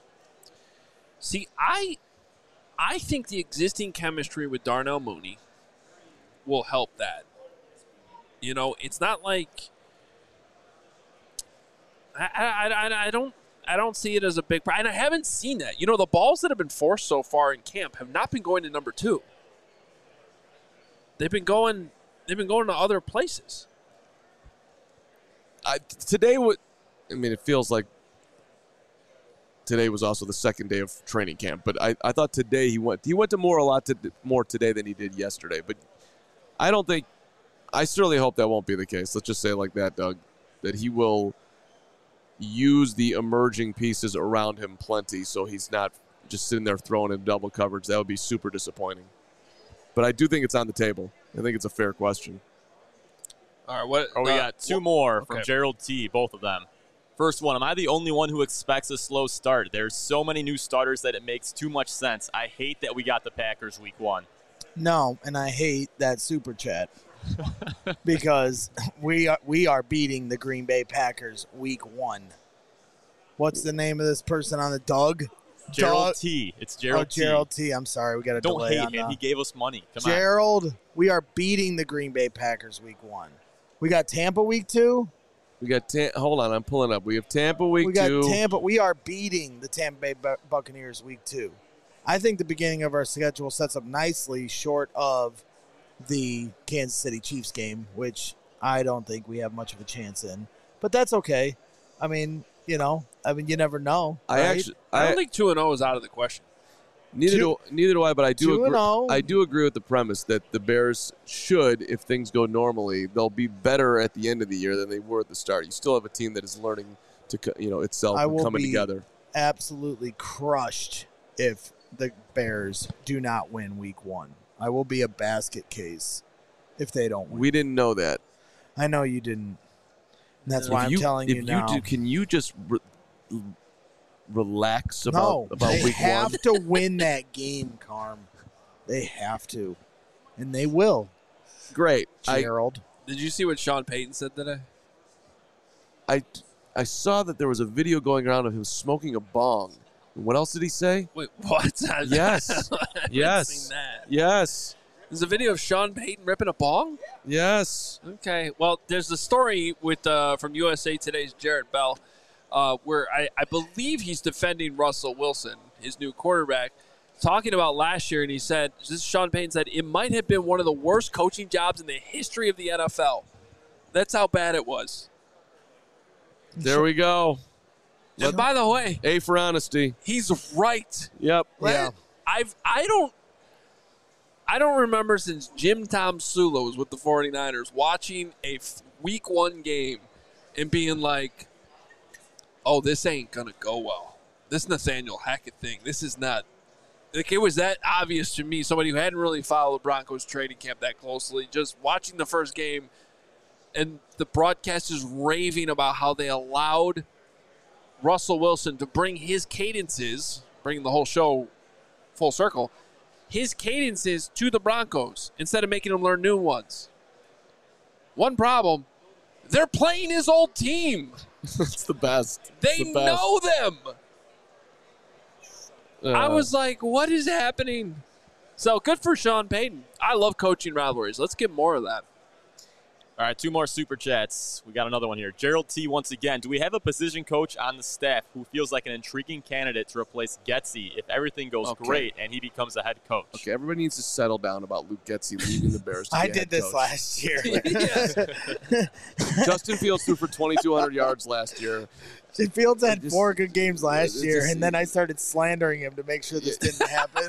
[SPEAKER 3] See, I think the existing chemistry with Darnell Mooney will help that. You know, it's not like I don't see it as a big problem. And I haven't seen that. You know, the balls that have been forced so far in camp have not been going to number 2. They've been going to other places.
[SPEAKER 1] It feels like today was also the second day of training camp, but I thought today he went to more today than he did yesterday. But I certainly hope that won't be the case. Let's just say it like that, Doug, that he will use the emerging pieces around him plenty so he's not just sitting there throwing in double coverage. That would be super disappointing. But I do think it's on the table. I think it's a fair question.
[SPEAKER 3] All right, what?
[SPEAKER 5] We got 2 more from
[SPEAKER 3] okay.
[SPEAKER 5] Gerald T., both of them. First one, am I the only one who expects a slow start? There's so many new starters that it makes too much sense. I hate that we got the Packers week 1.
[SPEAKER 4] no, and I hate that super chat because we are beating the Green Bay Packers week 1. What's the name of this person on the Doug?
[SPEAKER 5] Gerald T. It's Gerald T.
[SPEAKER 4] Gerald T. I'm sorry. We got a
[SPEAKER 5] Don't
[SPEAKER 4] delay
[SPEAKER 5] hate
[SPEAKER 4] on
[SPEAKER 5] him.
[SPEAKER 4] the...
[SPEAKER 5] He gave us money. Come on.
[SPEAKER 4] Gerald, we are beating the Green Bay Packers week 1. We got Tampa week 2.
[SPEAKER 1] We got hold on, I'm pulling up. We have Tampa week 2.
[SPEAKER 4] We got Tampa. We are beating the Tampa Bay Buccaneers week 2. I think the beginning of our schedule sets up nicely short of the Kansas City Chiefs game, which I don't think we have much of a chance in. But that's okay. I mean, you never know.
[SPEAKER 3] I don't think 2-0 is out of the question.
[SPEAKER 1] Neither do I, but I do agree.
[SPEAKER 4] 2-0.
[SPEAKER 1] I do agree with the premise that the Bears should, if things go normally, they'll be better at the end of the year than they were at the start. You still have a team that is learning to, itself and coming together.
[SPEAKER 4] Absolutely crushed if the Bears do not win week 1. I will be a basket case if they don't win.
[SPEAKER 1] We didn't know that.
[SPEAKER 4] I know you didn't. And that's why I'm telling you now.
[SPEAKER 1] Can you just relax about week 1?
[SPEAKER 4] They have to win that game, Carm. They have to. And they will.
[SPEAKER 1] Great.
[SPEAKER 4] Gerald.
[SPEAKER 3] Did you see what Sean Payton said today?
[SPEAKER 1] I saw that there was a video going around of him smoking a bong. What else did he say?
[SPEAKER 3] Wait, what?
[SPEAKER 1] Yes. Yes.
[SPEAKER 3] Seen that.
[SPEAKER 1] Yes.
[SPEAKER 3] There's a video of Sean Payton ripping a bong?
[SPEAKER 1] Yes.
[SPEAKER 3] Okay. Well, there's the story with from USA Today's Jarrett Bell, where I believe he's defending Russell Wilson, his new quarterback, talking about last year, and he said, Sean Payton said, it might have been one of the worst coaching jobs in the history of the NFL. That's how bad it was.
[SPEAKER 1] There we go.
[SPEAKER 3] And by the way,
[SPEAKER 1] A for honesty.
[SPEAKER 3] he's right.
[SPEAKER 1] Yep.
[SPEAKER 4] Yeah.
[SPEAKER 3] I don't remember since Jim Tom Sula was with the 49ers watching a week 1 game and being like, oh, this ain't going to go well. This Nathaniel Hackett thing, this is not. Like, it was that obvious to me, somebody who hadn't really followed the Broncos training camp that closely, just watching the first game and the broadcasters raving about how they allowed Russell Wilson to bring his cadences, bringing the whole show full circle, his cadences to the Broncos instead of making them learn new ones. One problem, they're playing his old team.
[SPEAKER 1] It's the best.
[SPEAKER 3] They know them. I was like, what is happening? So good for Sean Payton. I love coaching rivalries. Let's get more of that.
[SPEAKER 5] All right, 2 more super chats. We got another one here. Gerald T. once again. Do we have a position coach on the staff who feels like an intriguing candidate to replace Getsy if everything goes great and he becomes a head coach?
[SPEAKER 1] Okay, everybody needs to settle down about Luke Getsy leaving the Bears.
[SPEAKER 4] I did this last year.
[SPEAKER 1] Justin Fields threw for 2,200 yards last year.
[SPEAKER 4] Fields had 4 good games last year, and then I started slandering him to make sure this didn't happen.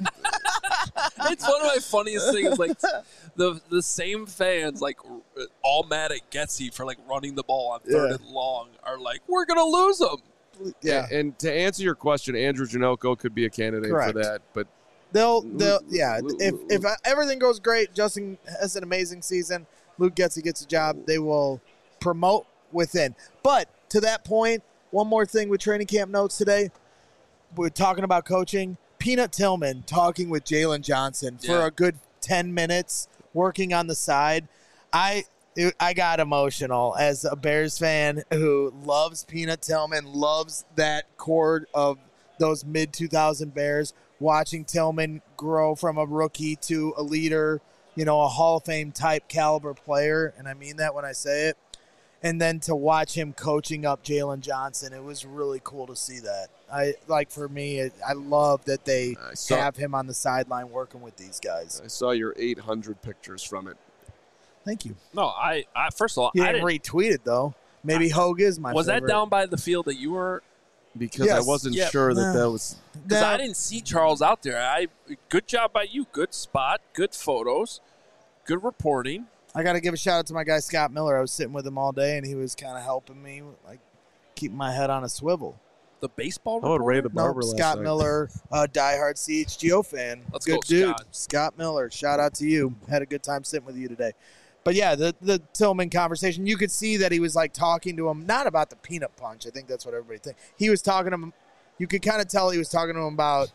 [SPEAKER 3] It's one of my funniest things. Like the same fans, like all mad at Getsy for like running the ball on 3rd and long, are like, we're gonna lose him.
[SPEAKER 4] Yeah.
[SPEAKER 1] And to answer your question, Andrew Janocko could be a candidate for that, but
[SPEAKER 4] they'll if everything goes great, Justin has an amazing season, Luke Getsy gets a job, they will promote within. But to that point, one more thing with training camp notes today. We're talking about coaching. Peanut Tillman talking with Jalen Johnson for a good 10 minutes, working on the side. I got emotional as a Bears fan who loves Peanut Tillman, loves that core of those mid-2000 Bears, watching Tillman grow from a rookie to a leader, a Hall of Fame type caliber player, and I mean that when I say it. And then to watch him coaching up Jalen Johnson, it was really cool to see that. For me, I love that they have him on the sideline working with these guys.
[SPEAKER 1] I saw your 800 pictures from it.
[SPEAKER 4] Thank you.
[SPEAKER 3] No, I first of all,
[SPEAKER 4] you didn't retweet it though. Maybe Hogue is my
[SPEAKER 3] was
[SPEAKER 4] favorite.
[SPEAKER 3] that down by the field that you were?
[SPEAKER 1] Because I wasn't sure that was.
[SPEAKER 3] Because I didn't see Charles out there. Good job by you. Good spot. Good photos. Good reporting.
[SPEAKER 4] I got to give a shout out to my guy Scott Miller. I was sitting with him all day, and he was kind of helping me, like keeping my head on a swivel.
[SPEAKER 3] The baseball
[SPEAKER 1] reporter?
[SPEAKER 3] Ray
[SPEAKER 1] the barber last
[SPEAKER 4] Scott
[SPEAKER 1] night.
[SPEAKER 4] Miller, diehard CHGO fan.
[SPEAKER 3] Let's
[SPEAKER 4] good
[SPEAKER 3] go,
[SPEAKER 4] dude.
[SPEAKER 3] Scott.
[SPEAKER 4] Scott Miller. Shout out to you. Had a good time sitting with you today. But yeah, the Tillman conversation, you could see that he was like talking to him, not about the peanut punch. I think that's what everybody thinks. He was talking to him. You could kind of tell he was talking to him about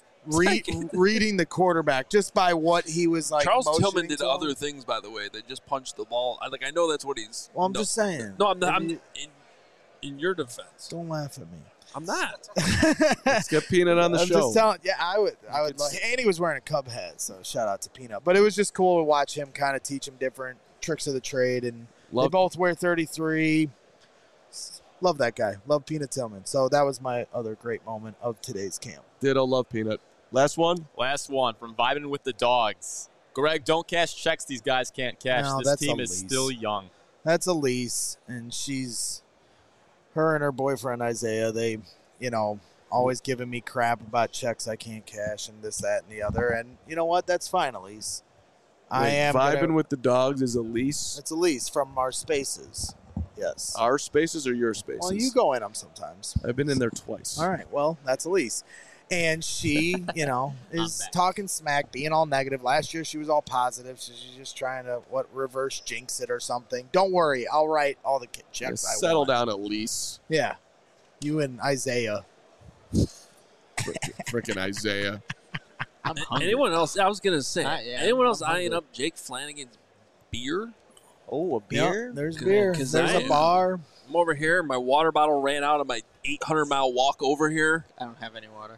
[SPEAKER 4] reading the quarterback just by what he was like.
[SPEAKER 3] Charles Tillman did
[SPEAKER 4] to him.
[SPEAKER 3] other things, by the way. They just punched the ball. I know that's what he's.
[SPEAKER 4] Well, I'm just saying.
[SPEAKER 3] No, I'm in your defense.
[SPEAKER 4] Don't laugh at me.
[SPEAKER 3] I'm not.
[SPEAKER 1] Let's get Peanut on the
[SPEAKER 4] I'm
[SPEAKER 1] show.
[SPEAKER 4] just telling. Yeah, I would. And he was wearing a Cub hat, so shout out to Peanut. But it was just cool to watch him kind of teach him different tricks of the trade, and they both wear 33. Love that guy. Love Peanut Tillman. So that was my other great moment of today's camp.
[SPEAKER 1] Ditto, love Peanut. Last one?
[SPEAKER 5] Last one from Vibing with the Dogs. Greg, don't cash checks these guys can't cash.
[SPEAKER 4] No,
[SPEAKER 5] this
[SPEAKER 4] that's
[SPEAKER 5] team
[SPEAKER 4] Elise.
[SPEAKER 5] is still young.
[SPEAKER 4] That's Elise, and her and her boyfriend Isaiah, they, always giving me crap about checks I can't cash and this, that, and the other. And you know what? That's fine, Elise. I am
[SPEAKER 1] Vibing with the Dogs is Elise.
[SPEAKER 4] It's Elise from our spaces. Yes.
[SPEAKER 1] Our spaces or your spaces?
[SPEAKER 4] Well, you go in them sometimes.
[SPEAKER 1] I've been in there twice.
[SPEAKER 4] All right. Well, that's Elise. And she, is talking smack, being all negative. Last year she was all positive. So she's just trying to, reverse jinx it or something. Don't worry. I'll write all the checks I want.
[SPEAKER 1] Settle down, Elise.
[SPEAKER 4] Yeah. You and Isaiah.
[SPEAKER 1] Freaking Isaiah.
[SPEAKER 3] Anyone else? I was going to say, anyone else
[SPEAKER 2] I'm
[SPEAKER 3] eyeing
[SPEAKER 2] hungry.
[SPEAKER 3] up Jake Flanagan's beer?
[SPEAKER 2] Oh, a beer?
[SPEAKER 4] Yep, there's beer.
[SPEAKER 3] 'Cause
[SPEAKER 4] There's
[SPEAKER 3] I
[SPEAKER 4] a bar.
[SPEAKER 3] I'm over here. My water bottle ran out on my 800-mile walk over here.
[SPEAKER 2] I don't have any water.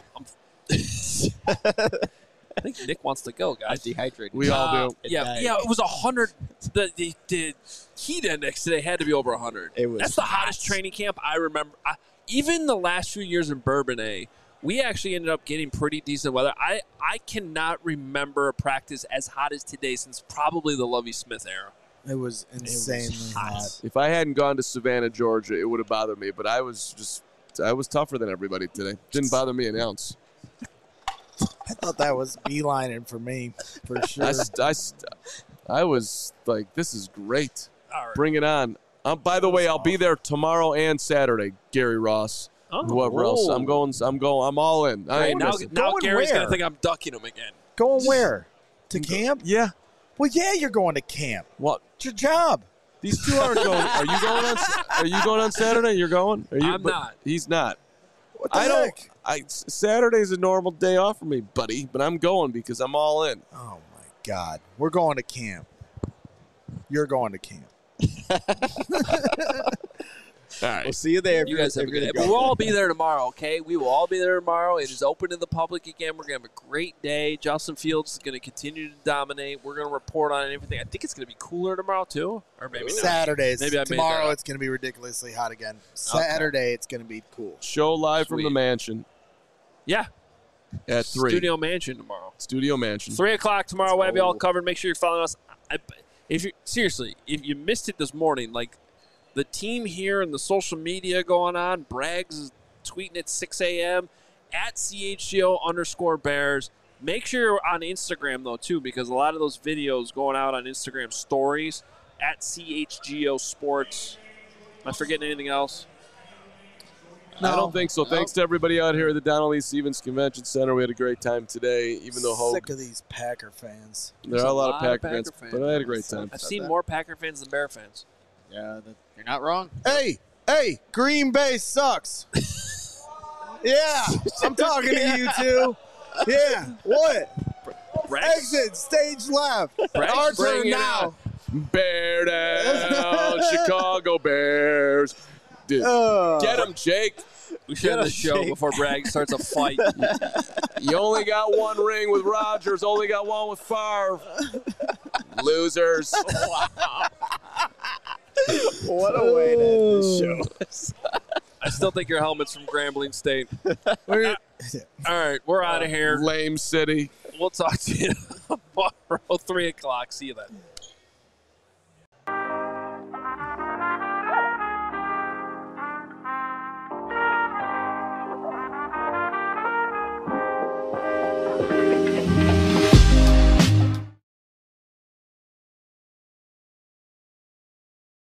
[SPEAKER 3] I think Nick wants to go,
[SPEAKER 2] I'm
[SPEAKER 3] guys.
[SPEAKER 2] dehydrated.
[SPEAKER 1] We all do.
[SPEAKER 3] Yeah, it was 100. The heat index today had to be over 100.
[SPEAKER 2] It was
[SPEAKER 3] That's the hottest training camp I remember. Even the last few years in Bourbonnais, we actually ended up getting pretty decent weather. I cannot remember a practice as hot as today since probably the Lovie Smith era.
[SPEAKER 4] It was insanely hot.
[SPEAKER 1] If I hadn't gone to Savannah, Georgia, it would have bothered me. But I was tougher than everybody today. Didn't bother me an ounce.
[SPEAKER 4] I thought that was beelining for me, for sure.
[SPEAKER 1] I was like, this is great.
[SPEAKER 3] All right.
[SPEAKER 1] Bring it on. By the way, I'll be there tomorrow and Saturday, Gary Ross. Whoever else. I'm all in. I ain't
[SPEAKER 3] now
[SPEAKER 1] missing.
[SPEAKER 3] Gary's
[SPEAKER 4] where?
[SPEAKER 3] going to think I'm ducking him again.
[SPEAKER 4] Going where? To camp?
[SPEAKER 1] Yeah.
[SPEAKER 4] Well, yeah, you're going to camp.
[SPEAKER 1] What?
[SPEAKER 4] It's your job.
[SPEAKER 1] These two aren't going. Are you going on Saturday? You're going?
[SPEAKER 3] I'm not.
[SPEAKER 1] He's not.
[SPEAKER 4] What the heck?
[SPEAKER 1] Saturday's a normal day off for me, buddy, but I'm going because I'm all in.
[SPEAKER 4] Oh, my God. We're going to camp. You're going to camp.
[SPEAKER 1] All right.
[SPEAKER 2] We'll see you there.
[SPEAKER 3] You guys have a good day. But we'll all be there tomorrow, okay? We will all be there tomorrow. It is open to the public again. We're going to have a great day. Justin Fields is going to continue to dominate. We're going to report on everything. I think it's going to be cooler tomorrow, too. Or maybe not.
[SPEAKER 4] Saturdays.
[SPEAKER 3] Maybe I made
[SPEAKER 4] Tomorrow
[SPEAKER 3] that up.
[SPEAKER 4] it's going to be ridiculously hot again. Saturday it's going to be cool.
[SPEAKER 1] Show live from
[SPEAKER 3] Sweet.
[SPEAKER 1] the mansion
[SPEAKER 3] Yeah.
[SPEAKER 1] at 3.
[SPEAKER 3] Studio Mansion tomorrow.
[SPEAKER 1] Studio mansion.
[SPEAKER 3] 3 o'clock tomorrow. We'll have you all covered. Make sure you're following us. If you missed it this morning, like the team here and the social media going on, Braggs is tweeting at 6 a.m. at CHGO_Bears. Make sure you're on Instagram, though, too, because a lot of those videos going out on Instagram stories at CHGO Sports. Am I forgetting anything else?
[SPEAKER 1] I don't think so. Thanks to everybody out here at the Donald E. Stevens Convention Center. We had a great time today, even though
[SPEAKER 4] Sick of these Packer fans.
[SPEAKER 1] there are a lot of Packer fans, but I had a great time.
[SPEAKER 3] I've seen more Packer fans than Bear fans.
[SPEAKER 2] Yeah, you're not wrong.
[SPEAKER 4] Hey, Green Bay sucks. Yeah, I'm talking to you two. Yeah, what? Exit, stage left. Our turn now.
[SPEAKER 1] Bear down, Chicago Bears. Dude, get him, Jake.
[SPEAKER 3] We should end the show before Bragg starts a fight.
[SPEAKER 1] You only got one ring with Rodgers, only got one with Favre. Losers.
[SPEAKER 4] What a way to end this show.
[SPEAKER 3] I still think your helmet's from Grambling State. All right, we're out of here.
[SPEAKER 1] Lame City.
[SPEAKER 3] We'll talk to you tomorrow, 3 o'clock. See you then.